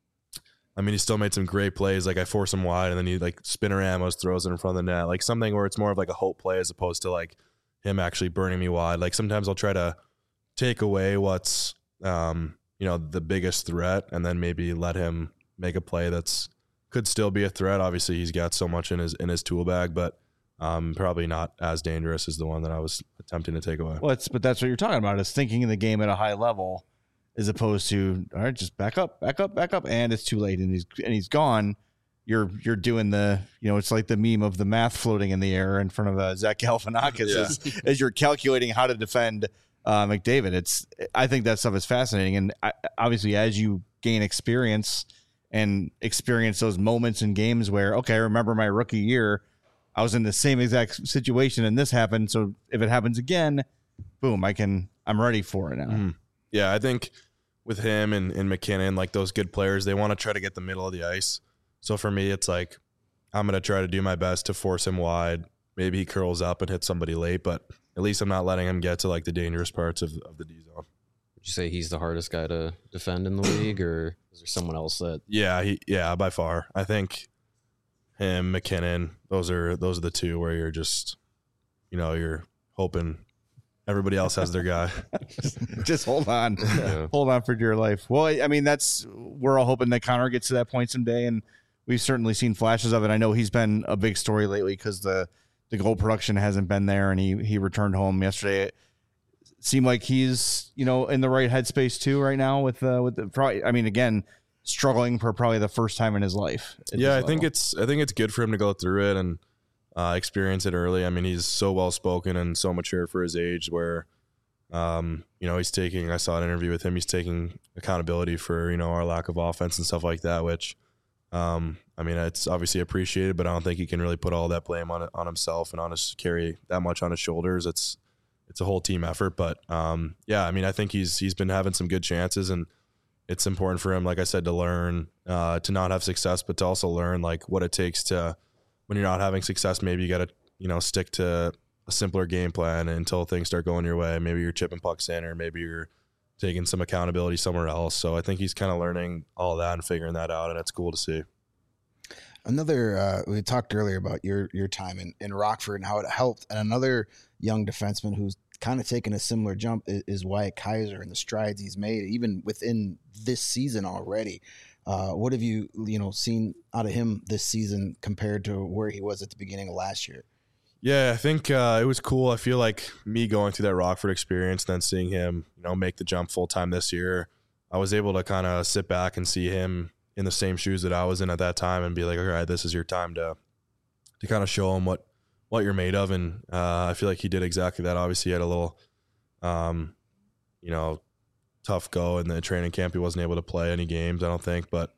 I mean, he still made some great plays. Like I force him wide and then he like Spinoramos throws it in front of the net, like something where it's more of like a hope play as opposed to like him actually burning me wide. Like sometimes I'll try to take away what's, um, you know, the biggest threat and then maybe let him make a play that's could still be a threat. Obviously he's got so much in his, in his tool bag, but um, probably not as dangerous as the one that I was attempting to take away. Well, it's, but that's what you're talking about is thinking in the game at a high level as opposed to, all right, just back up, back up, back up. And it's too late. And he's, and he's gone. You're, you're doing the, you know, it's like the meme of the math floating in the air in front of uh, Zach Galifianakis Yeah. as, as you're calculating how to defend uh, McDavid. It's, I think that stuff is fascinating. And I, obviously as you gain experience and experience those moments in games where, okay, I remember my rookie year, I was in the same exact situation and this happened. So if it happens again, boom, I can, I'm ready for it now. Mm. Yeah. I think with him and, and McKinnon, like those good players, they want to try to get the middle of the ice. So for me, it's like, I'm going to try to do my best to force him wide. Maybe he curls up and hits somebody late, but at least I'm not letting him get to like the dangerous parts of, of the D zone. Would you say he's the hardest guy to defend in the league, or is there someone else that? Yeah, he yeah, by far. I think him, McKinnon, those are those are the two where you're just, you know, you're hoping everybody else has their guy. Just hold on. Yeah. Hold on for dear life. Well, I mean, that's, we're all hoping that Connor gets to that point someday, and we've certainly seen flashes of it. I know he's been a big story lately because the, the goal production hasn't been there, and he, he returned home yesterday. It seemed like he's, you know, in the right headspace too right now with, uh, with the, probably, I mean, again, struggling for probably the first time in his life. Yeah, I think it's I think it's good for him to go through it and uh, experience it early. I mean, he's so well spoken and so mature for his age. Where, um, you know, he's taking. I saw an interview with him. He's taking accountability for, you know, our lack of offense and stuff like that. Which, um, I mean, it's obviously appreciated, but I don't think he can really put all that blame on on himself and on his carry that much on his shoulders. It's it's a whole team effort. But um, yeah, I mean, I think he's he's been having some good chances and. It's important for him, like I said, to learn, uh, to not have success, but to also learn like what it takes to, when you're not having success, maybe you got to, you know, stick to a simpler game plan until things start going your way. Maybe you're chipping pucks in, or maybe you're taking some accountability somewhere else. So I think he's kind of learning all that and figuring that out, and it's cool to see. Another, uh, we talked earlier about your your time in, in Rockford and how it helped. And another young defenseman who's kind of taken a similar jump is, is Wyatt Kaiser and the strides he's made, even within this season already. Uh, what have you, you know, seen out of him this season compared to where he was at the beginning of last year? Yeah, I think uh, it was cool. I feel like me going through that Rockford experience, then seeing him, you know, make the jump full time this year, I was able to kind of sit back and see him in the same shoes that I was in at that time and be like, all right, this is your time to to kind of show him what what you're made of. And uh, I feel like he did exactly that. Obviously, he had a little, um, you know, tough go in the training camp. He wasn't able to play any games, I don't think, but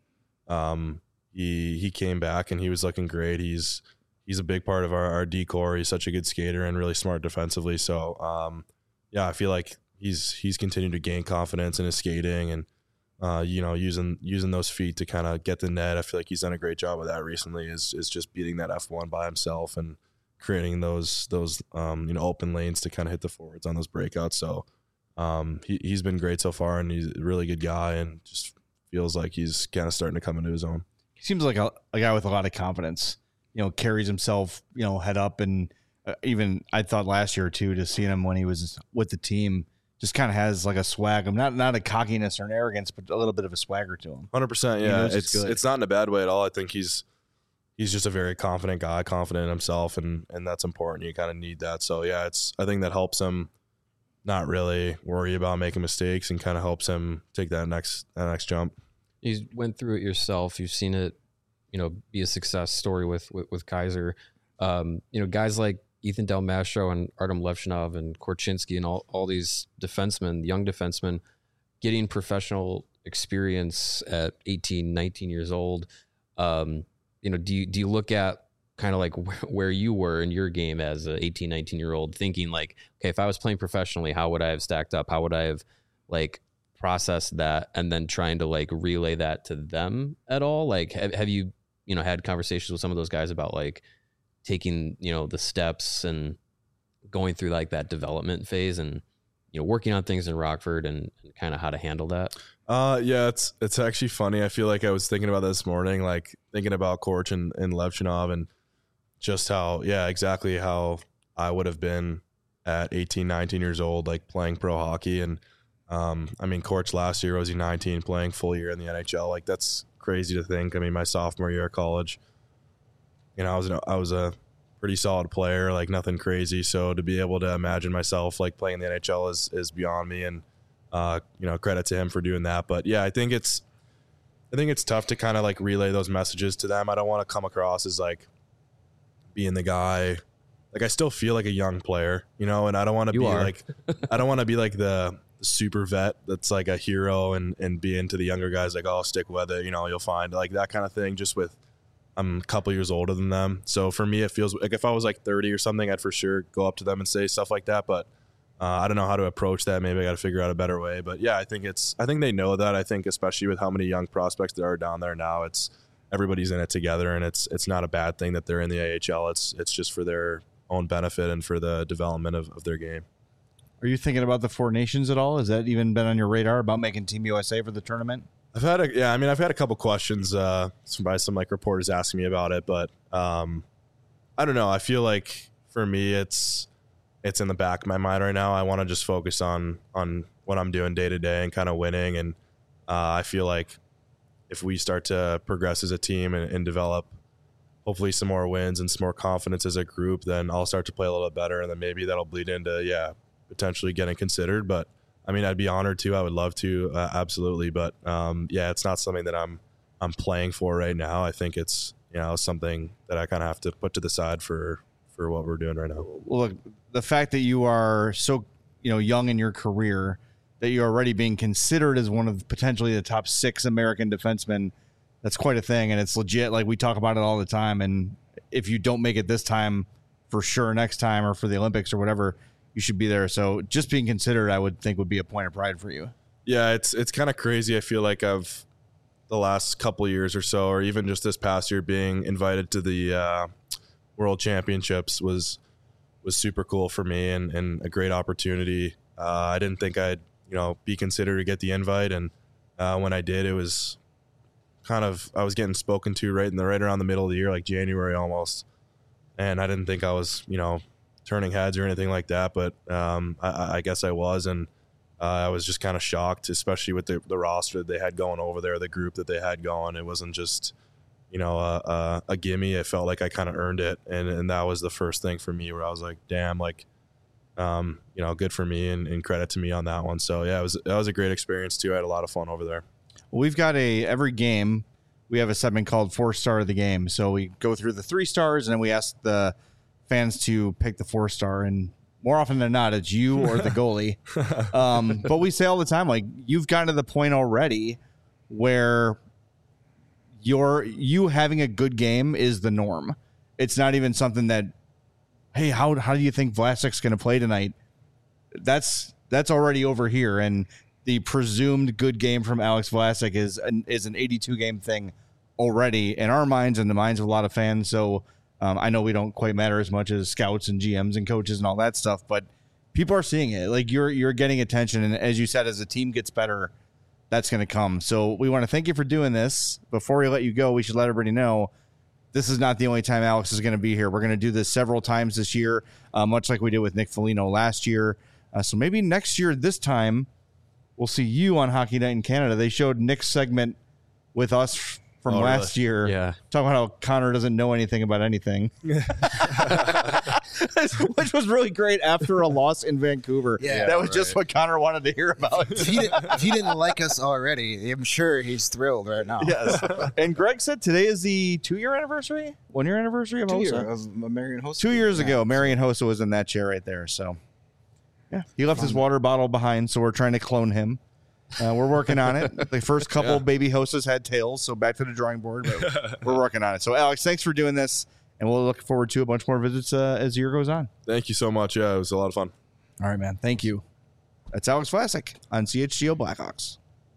um, he he came back and he was looking great. He's he's a big part of our, our D-core. He's such a good skater and really smart defensively. So, um, yeah, I feel like he's he's continued to gain confidence in his skating and, uh, you know, using using those feet to kind of get the net. I feel like he's done a great job of that recently, is is just beating that F one by himself and creating those those um, you know, open lanes to kind of hit the forwards on those breakouts. So um, he, he's been great so far, and he's a really good guy and just feels like he's kind of starting to come into his own. He seems like a, a guy with a lot of confidence, you know, carries himself, you know, head up. And uh, even I thought last year too, to see him when he was with the team, just kind of has like a swag. I'm not, not a cockiness or an arrogance, but a little bit of a swagger to him. one hundred percent. Yeah. It's, good. it's not in a bad way at all. I think he's, he's just a very confident guy, confident in himself. And, and that's important. You kind of need that. So yeah, it's, I think that helps him not really worry about making mistakes and kind of helps him take that next, that next jump. You went through it yourself. You've seen it, you know, be a success story with, with, with Kaiser. Um, you know, guys like Ethan Del Mastro and Artem Levchinov and Korchinski and all, all these defensemen, young defensemen, getting professional experience at eighteen, nineteen years old. Um, you know, do you, do you look at kind of like where, where you were in your game as an eighteen, nineteen year old, thinking like, okay, if I was playing professionally, how would I have stacked up? How would I have like processed that, and then trying to like relay that to them at all? Like, have, have you, you know, had conversations with some of those guys about like taking, you know, the steps and going through like that development phase and, you know, working on things in Rockford and, and kind of how to handle that? Uh, yeah, it's, it's actually funny. I feel like I was thinking about this morning, like thinking about Korch and, and Levchinov and just how, yeah, exactly how I would have been at eighteen, nineteen years old, like playing pro hockey. And, um, I mean, Korch last year, was he nineteen, playing full year in the N H L? Like, that's crazy to think. I mean, my sophomore year of college, you know, I was, an, I was a pretty solid player, like nothing crazy. So to be able to imagine myself like playing in the N H L is, is beyond me. And, uh, you know, credit to him for doing that. But yeah, I think it's, I think it's tough to kind of like relay those messages to them. I don't want to come across as like being the guy. Like, I still feel like a young player, you know, and I don't want to be are. like, I don't want to be like the, the super vet that's like a hero and, and be into the younger guys. Like, oh, stick with it. You know, you'll find like that kind of thing. Just with, I'm a couple years older than them. So for me, it feels like if I was like thirty or something, I'd for sure go up to them and say stuff like that. But uh, I don't know how to approach that. Maybe I got to figure out a better way. But yeah, I think it's, I think they know that. I think especially with how many young prospects there are down there now, it's, everybody's in it together, and it's, it's not a bad thing that they're in the A H L. It's, it's just for their own benefit and for the development of, of their game. Are you thinking about the Four Nations at all? Has that even been on your radar about making Team U S A for the tournament? I've had a, yeah, I mean, I've had a couple questions uh, by some like reporters asking me about it, but um, I don't know. I feel like for me, it's, it's in the back of my mind right now. I want to just focus on, on what I'm doing day to day and kind of winning. And uh, I feel like if we start to progress as a team and, and develop hopefully some more wins and some more confidence as a group, then I'll start to play a little bit better. And then maybe that'll bleed into, yeah, potentially getting considered. But I mean, I'd be honored to. I would love to, uh, absolutely. But um, yeah, it's not something that I'm I'm playing for right now. I think it's, you know, something that I kind of have to put to the side for for what we're doing right now. Well, look, the fact that you are so, you know, young in your career, that you're already being considered as one of potentially the top six American defensemen, that's quite a thing, and it's legit. Like, we talk about it all the time. And if you don't make it this time, for sure next time or for the Olympics or whatever, you should be there. So just being considered, I would think, would be a point of pride for you. Yeah, it's it's kind of crazy. I feel like I've the last couple of years or so, or even just this past year, being invited to the uh, World Championships was was super cool for me and, and a great opportunity. Uh, I didn't think I'd you know be considered to get the invite, and uh, when I did, it was kind of I was getting spoken to right in the right around the middle of the year, like January almost, and I didn't think I was you know. turning heads or anything like that, but um, I, I guess I was, and uh, I was just kind of shocked, especially with the, the roster that they had going over there, the group that they had going. It wasn't just, you know, a, a, a gimme. It felt like I kind of earned it, and and that was the first thing for me where I was like, damn, like, um, you know, good for me, and, and credit to me on that one. So yeah, it was that was a great experience too. I had a lot of fun over there. Well, we've got a every game we have a segment called Four Star of the Game. So we go through the three stars and then we ask the fans to pick the four star. And more often than not, it's you or the goalie. um, but we say all the time, like, you've gotten to the point already where you're, you having a good game is the norm. It's not even something that, hey, how how do you think Vlasic's going to play tonight? That's that's already over here, and the presumed good game from Alex Vlasic is an, is an eighty-two game thing already in our minds and the minds of a lot of fans. So um, I know we don't quite matter as much as scouts and G Ms and coaches and all that stuff, but people are seeing it. Like, you're you're getting attention, and as you said, as the team gets better, that's going to come. So we want to thank you for doing this. Before we let you go, we should let everybody know this is not the only time Alex is going to be here. We're going to do this several times this year, uh, much like we did with Nick Foligno last year. Uh, so maybe next year, this time, we'll see you on Hockey Night in Canada. They showed Nick's segment with us f- from oh, last really? year. Yeah. Talking about how Connor doesn't know anything about anything. Which was really great after a loss in Vancouver. Yeah, that was right. just what Connor wanted to hear about. If he, didn't, if he didn't like us already, I'm sure he's thrilled right now. Yes. And Greg said today is the two-year anniversary? One-year anniversary of Two Hossa? years of Marion Hossa. Two years Yeah. ago, Marion Hossa was in that chair right there. So, yeah, he left his water bottle behind, so we're trying to clone him. Uh, we're working on it. The first couple Yeah. baby Hossas had tails, so back to the drawing board. But we're working on it. So, Alex, thanks for doing this, and we'll look forward to a bunch more visits uh, as the year goes on. Thank you so much. Yeah, it was a lot of fun. All right, man. Thank you. That's Alex Vlasic on C H G O Blackhawks.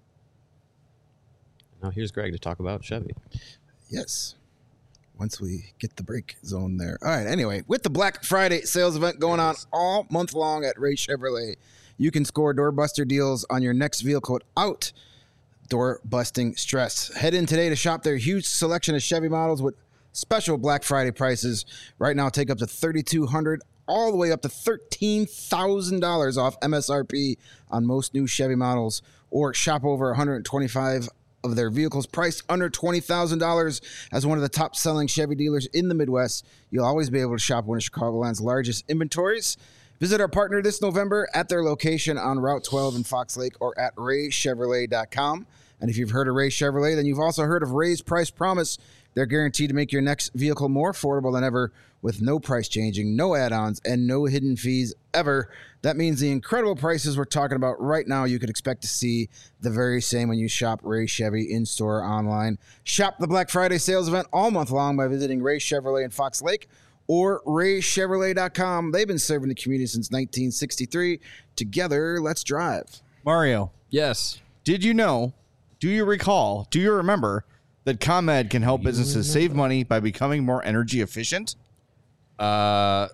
Now here's Greg to talk about Chevy. Yes. Once we get the break zone there. All right. Anyway, with the Black Friday sales event going on all month long at Ray Chevrolet, you can score doorbuster deals on your next vehicle without door busting stress. Head in today to shop their huge selection of Chevy models with special Black Friday prices. Right now, take up to thirty-two hundred dollars all the way up to thirteen thousand dollars off M S R P on most new Chevy models, or shop over one hundred twenty-five of their vehicles priced under twenty thousand dollars. As one of the top selling Chevy dealers in the Midwest, you'll always be able to shop one of Chicagoland's largest inventories. Visit our partner this November at their location on Route twelve in Fox Lake or at ray chevrolet dot com. And if you've heard of Ray Chevrolet, then you've also heard of Ray's Price Promise. They're guaranteed to make your next vehicle more affordable than ever with no price changing, no add-ons, and no hidden fees ever. That means the incredible prices we're talking about right now, you could expect to see the very same when you shop Ray Chevy in-store or online. Shop the Black Friday sales event all month long by visiting Ray Chevrolet in Fox Lake or ray chevrolet dot com. They've been serving the community since nineteen sixty-three. Together, let's drive. Mario, Yes. did you know, do you recall, do you remember that ComEd can help businesses save money by becoming more energy efficient? Uh,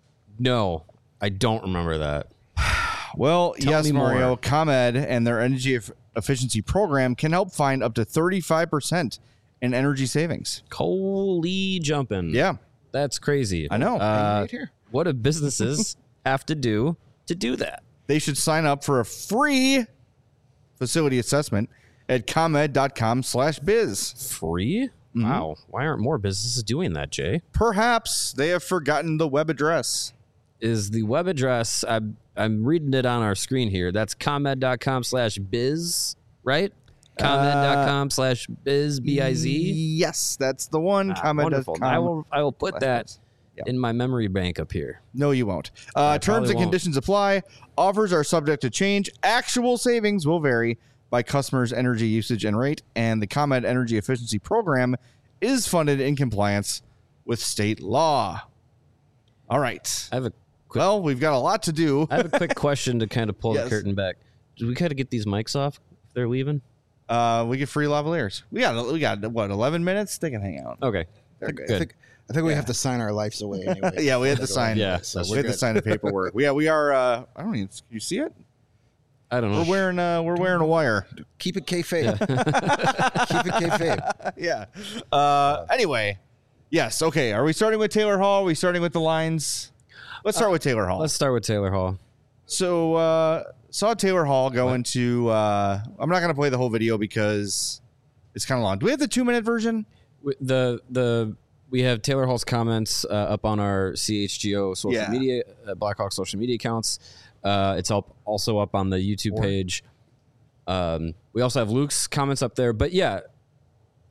no, I don't remember that. Well, Tell yes, me Mario. more. ComEd and their energy eff- efficiency program can help find up to thirty-five percent in energy savings. Holy jumping. Yeah, That's crazy. I know. Uh, Right here. what do businesses have to do to do that? they should sign up for a free facility assessment at comed.com slash biz. Free? Wow. Why aren't more businesses doing that, Jay? Perhaps they have forgotten the web address. Is the web address, I'm, I'm reading it on our screen here. That's comed.com slash biz, right? comed.com slash biz, B I Z. Yes, that's the one. Ah, comed dot wonderful. com. I will, I will put slash that biz. Yeah. in my memory bank up here. No, you won't. Uh, terms probably and won't. conditions apply. Offers are subject to change. Actual savings will vary by customers' energy usage and rate. And the ComEd Energy Efficiency Program is funded in compliance with state law. All right. I have a quick, Well, we've got a lot to do. I have a quick question to kind of pull Yes. the curtain back. Do we kind of get these mics off if they're leaving? Uh, we get free lavaliers. We got we got what eleven minutes. They can hang out. Okay. They're I good. think, I think we have to sign our lives away anyway. Yeah, we had to sign. Yeah, so we we're had to good. sign the paperwork. Yeah, we are. Uh, I don't even. You see it? I don't know. We're wearing. Uh, we're wearing a wire. Keep it kayfabe. Keep it kayfabe. Yeah. Uh, anyway, yes. Okay. Are we starting with Taylor Hall? Are we starting with the lines? Let's start with Taylor Hall. Let's start with Taylor Hall. So uh, saw Taylor Hall go into. Uh, I'm not going to play the whole video because it's kind of long. Do we have the two minute version? W- The the we have Taylor Hall's comments uh, up on our C H G O social Yeah. media, uh, Blackhawk social media accounts. Uh, it's up also up on the YouTube page. Um, we also have Luke's comments up there. But yeah,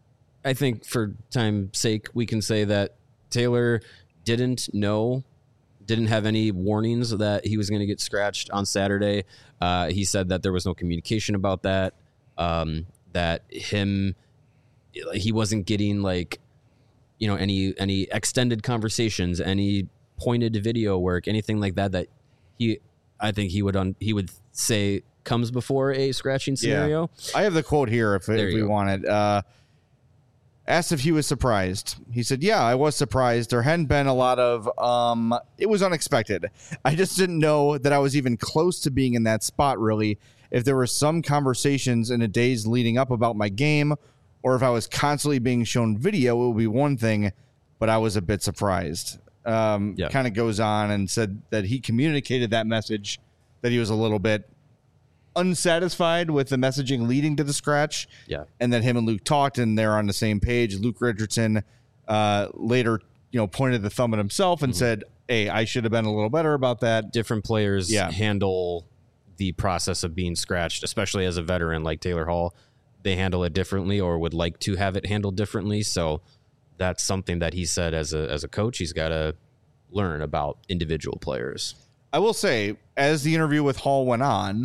I think for time's sake, we can say that Taylor didn't know, didn't have any warnings that he was going to get scratched on Saturday. Uh, he said that there was no communication about that, um, that him, he wasn't getting like, you know, any any extended conversations, any pointed video work, anything like that, that he, I think he would un, he would say comes before a scratching scenario. Yeah. I have the quote here if, if we go. want it. Uh, asked if he was surprised. He said, yeah, I was surprised. There hadn't been a lot of, um, it was unexpected. I just didn't know that I was even close to being in that spot, really. If there were some conversations in the days leading up about my game, or if I was constantly being shown video, it would be one thing, but I was a bit surprised. Um, yeah. Kind of goes on and said that he communicated that message, that he was a little bit unsatisfied with the messaging leading to the scratch. Yeah. And that him and Luke talked and they're on the same page. Luke Richardson uh, later, you know, pointed the thumb at himself and mm-hmm. said, hey, I should have been a little better about that. Different players yeah. handle the process of being scratched, especially as a veteran like Taylor Hall. They handle it differently or would like to have it handled differently. So that's something that he said as a as a coach, he's got to learn about individual players. I will say, as the interview with Hall went on,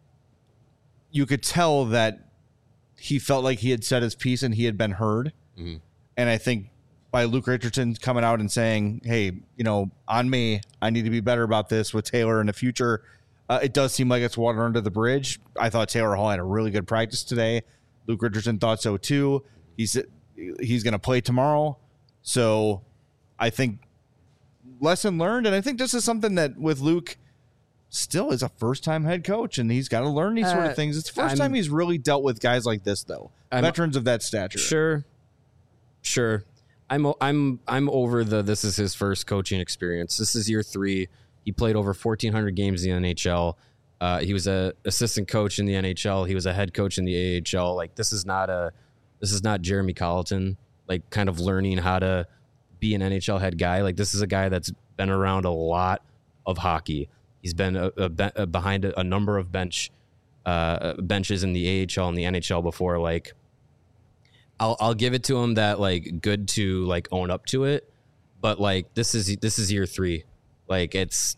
you could tell that he felt like he had said his piece and he had been heard. Mm-hmm. And I think by Luke Richardson coming out and saying, hey, you know, on me, I need to be better about this with Taylor in the future. Uh, it does seem like it's water under the bridge. I thought Taylor Hall had a really good practice today. Luke Richardson thought so too. He's, he's going to play tomorrow. So I think lesson learned. And I think this is something that with Luke, still is a first-time head coach, and he's got to learn these uh, sort of things. It's the 1st time he's really dealt with guys like this, though. I'm, veterans of that stature. Sure, sure. I'm I'm I'm over the. This is his first coaching experience. This is year three. He played over fourteen hundred games in the N H L. Uh, he was a assistant coach in the N H L. He was a head coach in the A H L. Like this is not a. This is not Jeremy Colleton. Like kind of learning how to be an N H L head guy. Like this is a guy that's been around a lot of hockey. He's been a, a, a behind a, a number of bench uh, benches in the A H L and the N H L before. Like, I'll I'll give it to him that like good to like own up to it, but like this is this is year three. Like it's,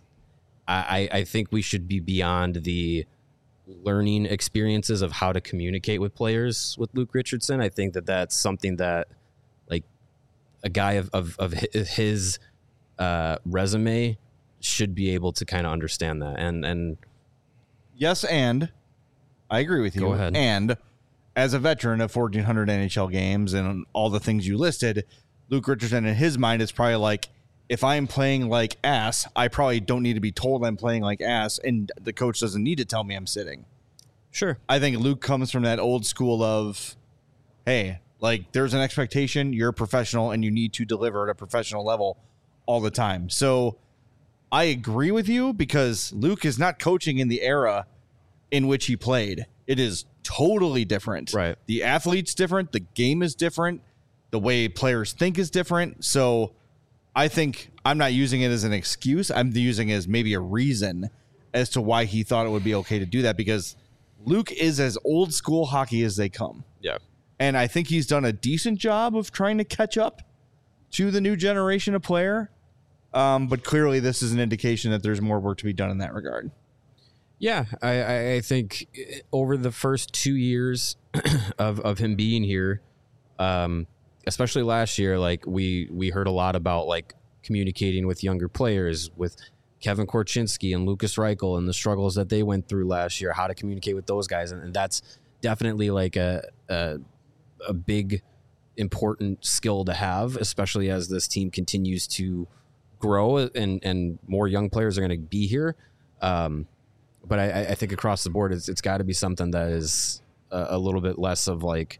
I I think we should be beyond the learning experiences of how to communicate with players with Luke Richardson. I think that that's something that like a guy of of, of his uh, resume should be able to kind of understand that. And and yes, and I agree with you. Go ahead. And as a veteran of fourteen hundred N H L games and all the things you listed, Luke Richardson in his mind is probably like, if I'm playing like ass, I probably don't need to be told I'm playing like ass, and the coach doesn't need to tell me I'm sitting. Sure. I think Luke comes from that old school of, hey, like there's an expectation, you're a professional, and you need to deliver at a professional level all the time. So I agree with you because Luke is not coaching in the era in which he played. It is totally different. Right. The athlete's different. The game is different. The way players think is different. So I think I'm not using it as an excuse. I'm using it as maybe a reason as to why he thought it would be okay to do that, because Luke is as old school hockey as they come. Yeah. And I think he's done a decent job of trying to catch up to the new generation of player. Um, but clearly this is an indication that there's more work to be done in that regard. Yeah, I, I think over the first two years of, of him being here, um, especially last year, like we, we heard a lot about like communicating with younger players, with Kevin Korchinski and Lucas Reichel and the struggles that they went through last year, how to communicate with those guys. And, and that's definitely like a, a, a big, important skill to have, especially as this team continues to grow and and more young players are going to be here. Um, but I, I think across the board, it's it's got to be something that is a, a little bit less of like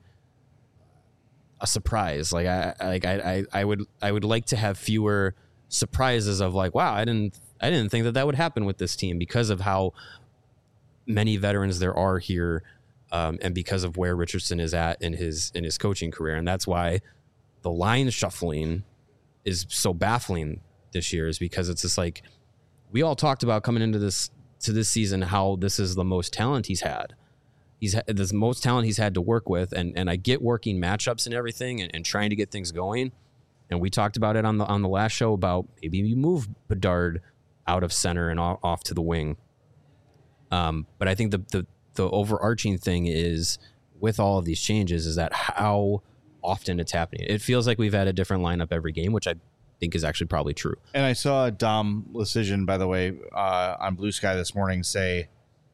a surprise. Like I like I, I I would I would like to have fewer surprises of like, wow, I didn't I didn't think that that would happen with this team because of how many veterans there are here, um, and because of where Richardson is at in his in his coaching career. And that's why the line shuffling is so baffling this year, is because it's just like we all talked about coming into this to this season how this is the most talent he's had, he's the most talent he's had to work with, and and I get working matchups and everything, and, and trying to get things going. And we talked about it on the on the last show about maybe you move Bedard out of center and off, off to the wing. Um, but I think the, the the overarching thing is with all of these changes is that how often it's happening. It feels like we've had a different lineup every game, which I think is actually probably true. And I saw Dom Lucian, by the way, uh, on Blue Sky this morning say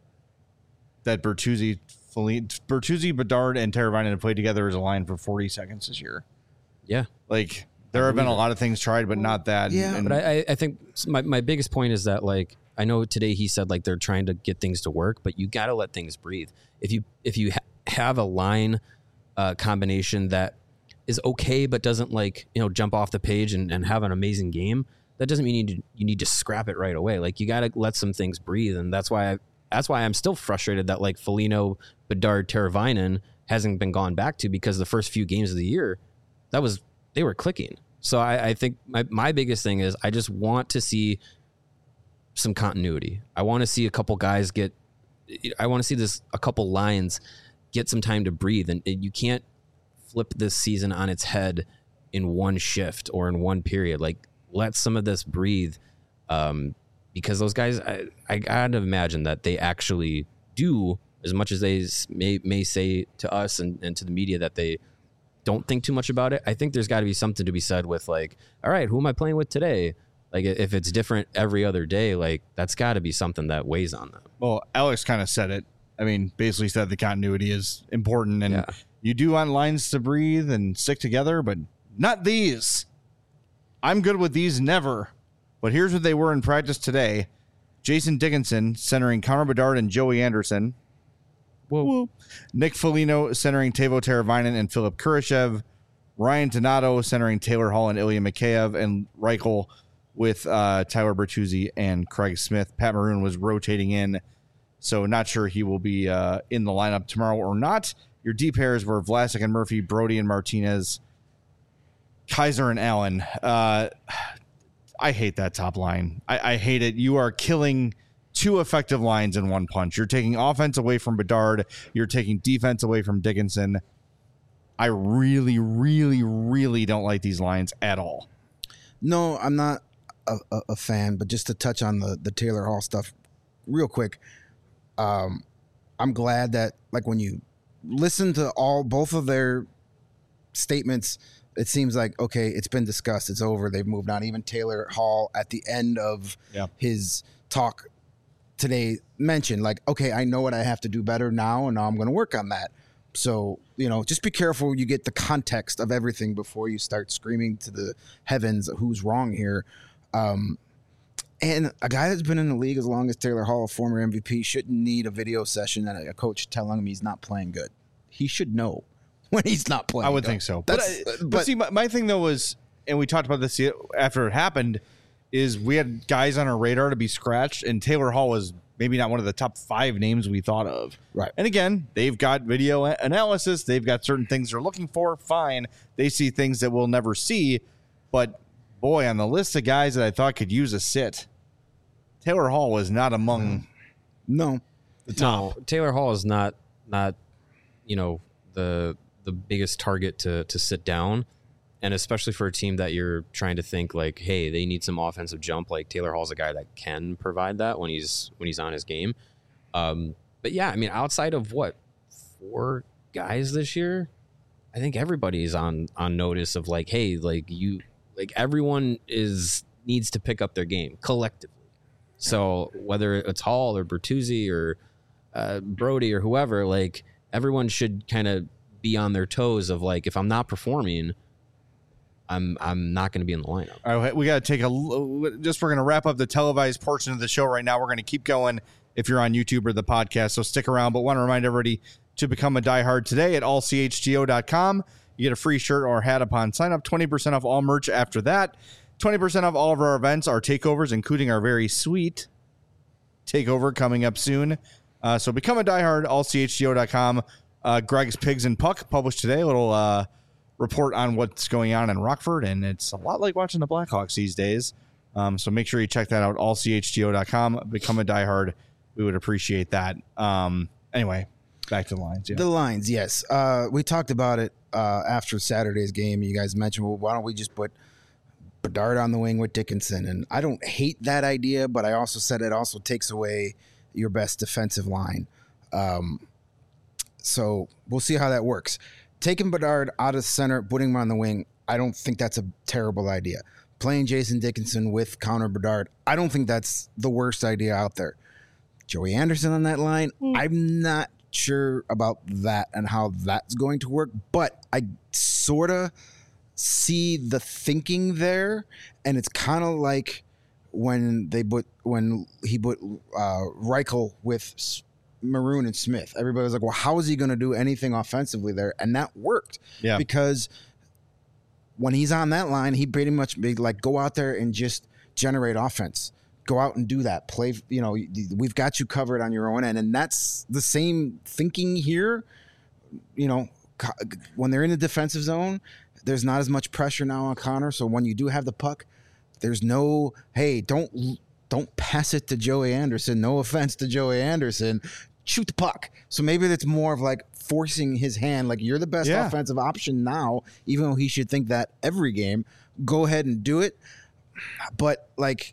that Bertuzzi, Bertuzzi, Bedard, and Teravainen have played together as a line for forty seconds this year. Yeah. Like, there have been a lot of things tried, but not that. Yeah, and, But I, I think my, my biggest point is that, like, I know today he said, like, they're trying to get things to work, but you got to let things breathe. If you if you ha- have a line uh, combination that is okay, but doesn't, like, you know, jump off the page and, and have an amazing game, that doesn't mean you need to, you need to scrap it right away. Like, you got to let some things breathe, and that's why I, that's why I'm still frustrated that, like, Foligno, Bedard, Teravainen hasn't been gone back to, because the first few games of the year, that was they were clicking. So I, I think my, my biggest thing is I just want to see some continuity. I want to see a couple guys get, I want to see this, a couple lines get some time to breathe. And, and you can't flip this season on its head in one shift or in one period. Like, let some of this breathe. Um, because those guys, I, I gotta imagine that they actually do, as much as they may, may say to us and, and to the media that they don't think too much about it. I think there's got to be something to be said with, like, all right, who am I playing with today? Like, if it's different every other day, like, that's got to be something that weighs on them. well, Alex kind of said it. I mean, basically said the continuity is important, and Yeah. you do want lines to breathe and stick together, but not these. I'm good with these never. But here's what they were in practice today. Jason Dickinson centering Connor Bedard and Joey Anderson. Whoa. Nick Foligno centering Teuvo Teravainen and Philip Kurashev. Ryan Donato centering Taylor Hall and Ilya Mikheyev. And Reichel with uh, Tyler Bertuzzi and Craig Smith. Pat Maroon was rotating in, so not sure he will be uh, in the lineup tomorrow or not. Your D pairs were Vlasic and Murphy, Brody and Martinez, Kaiser and Allen. Uh, I hate that top line. I, I hate it. You are killing two effective lines in one punch. You're taking offense away from Bedard. You're taking defense away from Dickinson. I really, really, really don't like these lines at all. No, I'm not a, a, a fan, but just to touch on the, the Taylor Hall stuff real quick, um, I'm glad that, like, when you listen to all both of their statements, it seems like, okay, it's been discussed, it's over, they've moved on. Even Taylor Hall at the end of Yeah. his talk today mentioned, like, okay, I know what I have to do better now, and now I'm going to work on that. So, you know, just be careful you get the context of everything before you start screaming to the heavens who's wrong here. Um, and a guy that's been in the league as long as Taylor Hall, a former M V P, shouldn't need a video session and a coach telling him he's not playing good. He should know when he's not playing I would good. think so. But, That's, I, but, but see, my, my thing, though, was, and we talked about this after it happened, is we had guys on our radar to be scratched, and Taylor Hall was maybe not one of the top five names we thought of. Right. And again, they've got video analysis. They've got certain things they're looking for. Fine. They see things that we'll never see. But, boy, on the list of guys that I thought could use a sit, Taylor Hall was not among no. the top. No, Taylor Hall is not not you know the the biggest target to to sit down, and especially for a team that you're trying to think like, hey, they need some offensive jump. Like, Taylor Hall's a guy that can provide that when he's when he's on his game. Um, but yeah, I mean, outside of what four guys this year, I think everybody's on on notice of like, hey, like you like everyone is needs to pick up their game collectively. So whether it's Hall or Bertuzzi or uh, Brody or whoever, like, everyone should kind of be on their toes of like, if I'm not performing, I'm I'm not going to be in the lineup. All right, we got to take a just. We're going to wrap up the televised portion of the show right now. We're going to keep going if you're on YouTube or the podcast, so stick around. But want to remind everybody to become a diehard today at all c h g o dot com. You get a free shirt or hat upon sign up. twenty percent off all merch after that. twenty percent off all of our events, our takeovers, including our very sweet takeover coming up soon. Uh, so become a diehard, all c h g o dot com. Uh, Greg's Pigs and Puck published today. A little uh, report on what's going on in Rockford, and it's a lot like watching the Blackhawks these days. Um, so make sure you check that out, all c h g o dot com. Become a diehard. We would appreciate that. Um, anyway, back to the lines. Yeah. The lines, yes. Uh, we talked about it uh, after Saturday's game. You guys mentioned, well, why don't we just put Bedard on the wing with Dickinson? And I don't hate that idea, but I also said it also takes away your best defensive line. Um, so we'll see how that works. Taking Bedard out of center, putting him on the wing, I don't think that's a terrible idea. Playing Jason Dickinson with Connor Bedard, I don't think that's the worst idea out there. Joey Anderson on that line, mm. I'm not sure about that and how that's going to work, but I sort of see the thinking there, and it's kind of like when they put when he put uh, Reichel with Maroon and Smith. Everybody was like, well, how is he going to do anything offensively there? And that worked. Yeah. Because when he's on that line, he pretty much be like, go out there and just generate offense. Go out and do that. Play, you know, we've got you covered on your own end. And that's the same thinking here. You know, when they're in the defensive zone, there's not as much pressure now on Connor. So when you do have the puck, there's no, hey, don't don't pass it to Joey Anderson. No offense to Joey Anderson. Shoot the puck. So maybe that's more of like forcing his hand. Like, you're the best yeah. offensive option now, even though he should think that every game. Go ahead and do it. But like,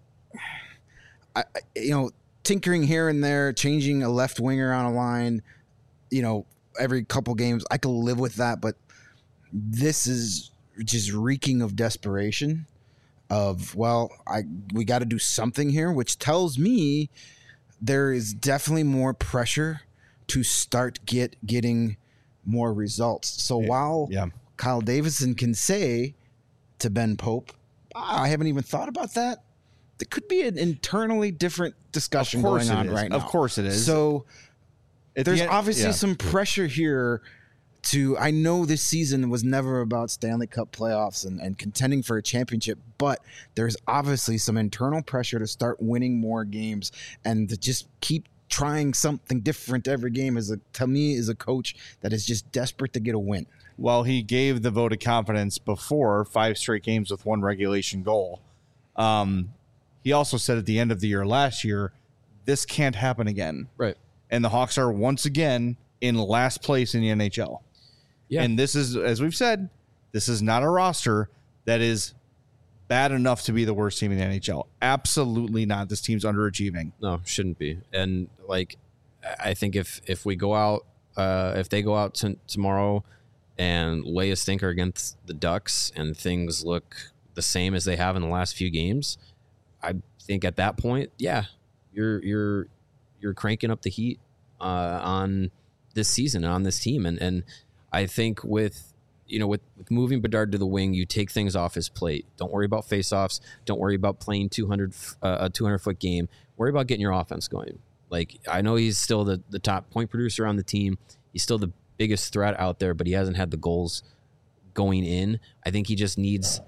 I, you know, tinkering here and there, changing a left winger on a line, you know, every couple games, I could live with that. But this is just reeking of desperation. Of, well, I we got to do something here, which tells me there is definitely more pressure to start get getting more results. So yeah. while yeah. Kyle Davidson can say to Ben Pope, I haven't even thought about that, there could be an internally different discussion going on right now. Of course it is. So At there's the end, obviously yeah. some pressure here to, I know this season was never about Stanley Cup playoffs and, and contending for a championship, but there's obviously some internal pressure to start winning more games and to just keep trying something different every game. As a, to me, is a coach that is just desperate to get a win. Well, he gave the vote of confidence before five straight games with one regulation goal. Um, he also said at the end of the year last year, this can't happen again. Right. And the Hawks are once again in last place in the N H L. Yeah. And this is, as we've said, this is not a roster that is bad enough to be the worst team in the N H L. Absolutely not. This team's underachieving. No, shouldn't be. And like, I think if if we go out, uh, if they go out t- tomorrow and lay a stinker against the Ducks and things look the same as they have in the last few games, I think at that point, yeah, you're you're you're cranking up the heat uh, on this season and on this team, and and. I think with, you know, with, with moving Bedard to the wing, you take things off his plate. Don't worry about faceoffs. Don't worry about playing two hundred uh, a two hundred foot game. Worry about getting your offense going. Like, I know he's still the, the top point producer on the team. He's still the biggest threat out there, but he hasn't had the goals going in. I think he just needs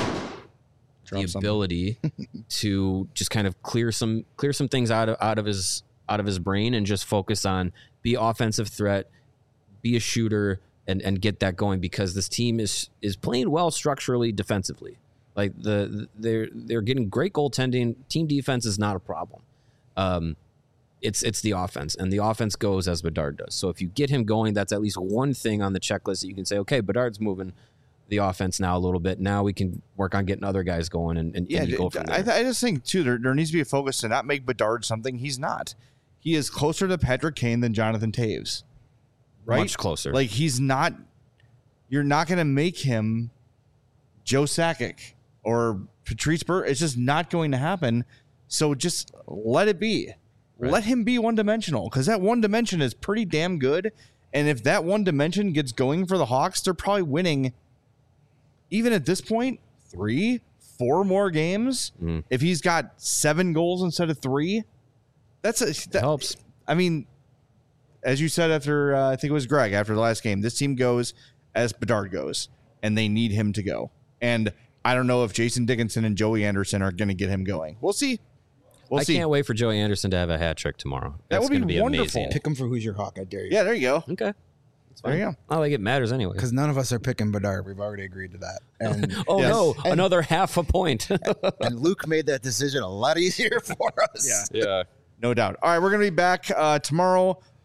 Drop the ability to just kind of clear some clear some things out of out of his out of his brain and just focus on be offensive threat, be a shooter. And, and get that going, because this team is is playing well structurally defensively. Like the they're they're getting great goaltending. Team defense is not a problem. Um, it's it's the offense, and the offense goes as Bedard does. So if you get him going, that's at least one thing on the checklist that you can say, okay, Bedard's moving the offense now a little bit. Now we can work on getting other guys going and, and, yeah, and you go from there. I, th- I just think too there, there needs to be a focus to not make Bedard something he's not. He is closer to Patrick Kane than Jonathan Toews. Right? Much closer. Like, he's not, you're not going to make him Joe Sakic or Patrice Bergeron. It's just not going to happen. So just let it be. Right. Let him be one dimensional, because that one dimension is pretty damn good. And if that one dimension gets going for the Hawks, they're probably winning, even at this point, three, four more games. Mm. If he's got seven goals instead of three, that's a, that it helps. I mean, as you said after, uh, I think it was Greg, after the last game, this team goes as Bedard goes, and they need him to go. And I don't know if Jason Dickinson and Joey Anderson are going to get him going. We'll see. We'll I see. can't wait for Joey Anderson to have a hat trick tomorrow. That's that would be, be wonderful. amazing. Pick him for Who's Your Hawk, I dare you. Yeah, there you go. Okay. There you go. Not like it matters anyway. Because none of us are picking Bedard. We've already agreed to that. And oh, yes. no. And, another half a point. and Luke made that decision a lot easier for us. Yeah. Yeah. No doubt. All right, we're going to be back uh, tomorrow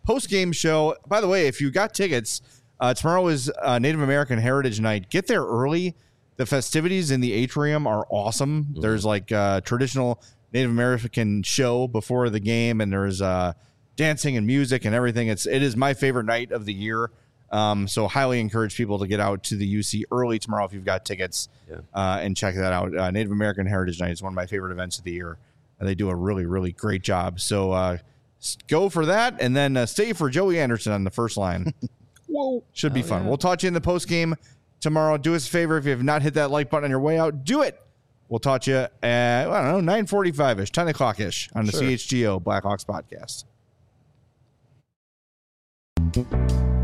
post-game show. By the way, if you got tickets, uh, tomorrow is uh, Native American Heritage Night. Get there early. The festivities in the atrium are awesome. Mm-hmm. There's like a traditional Native American show before the game, and there's uh, dancing and music and everything. It's it is my favorite night of the year. Um, so highly encourage people to get out to the U C early tomorrow if you've got tickets yeah. uh, and check that out. Uh, Native American Heritage Night is one of my favorite events of the year. And they do a really, really great job. So uh, go for that and then uh, stay for Joey Anderson on the first line. Whoa. Should be oh, fun. Yeah. We'll talk to you in the post game tomorrow. Do us a favor. If you have not hit that like button on your way out, do it. We'll talk to you at, I don't know, nine forty-five-ish, ten o'clock-ish on the sure. C H G O Blackhawks podcast.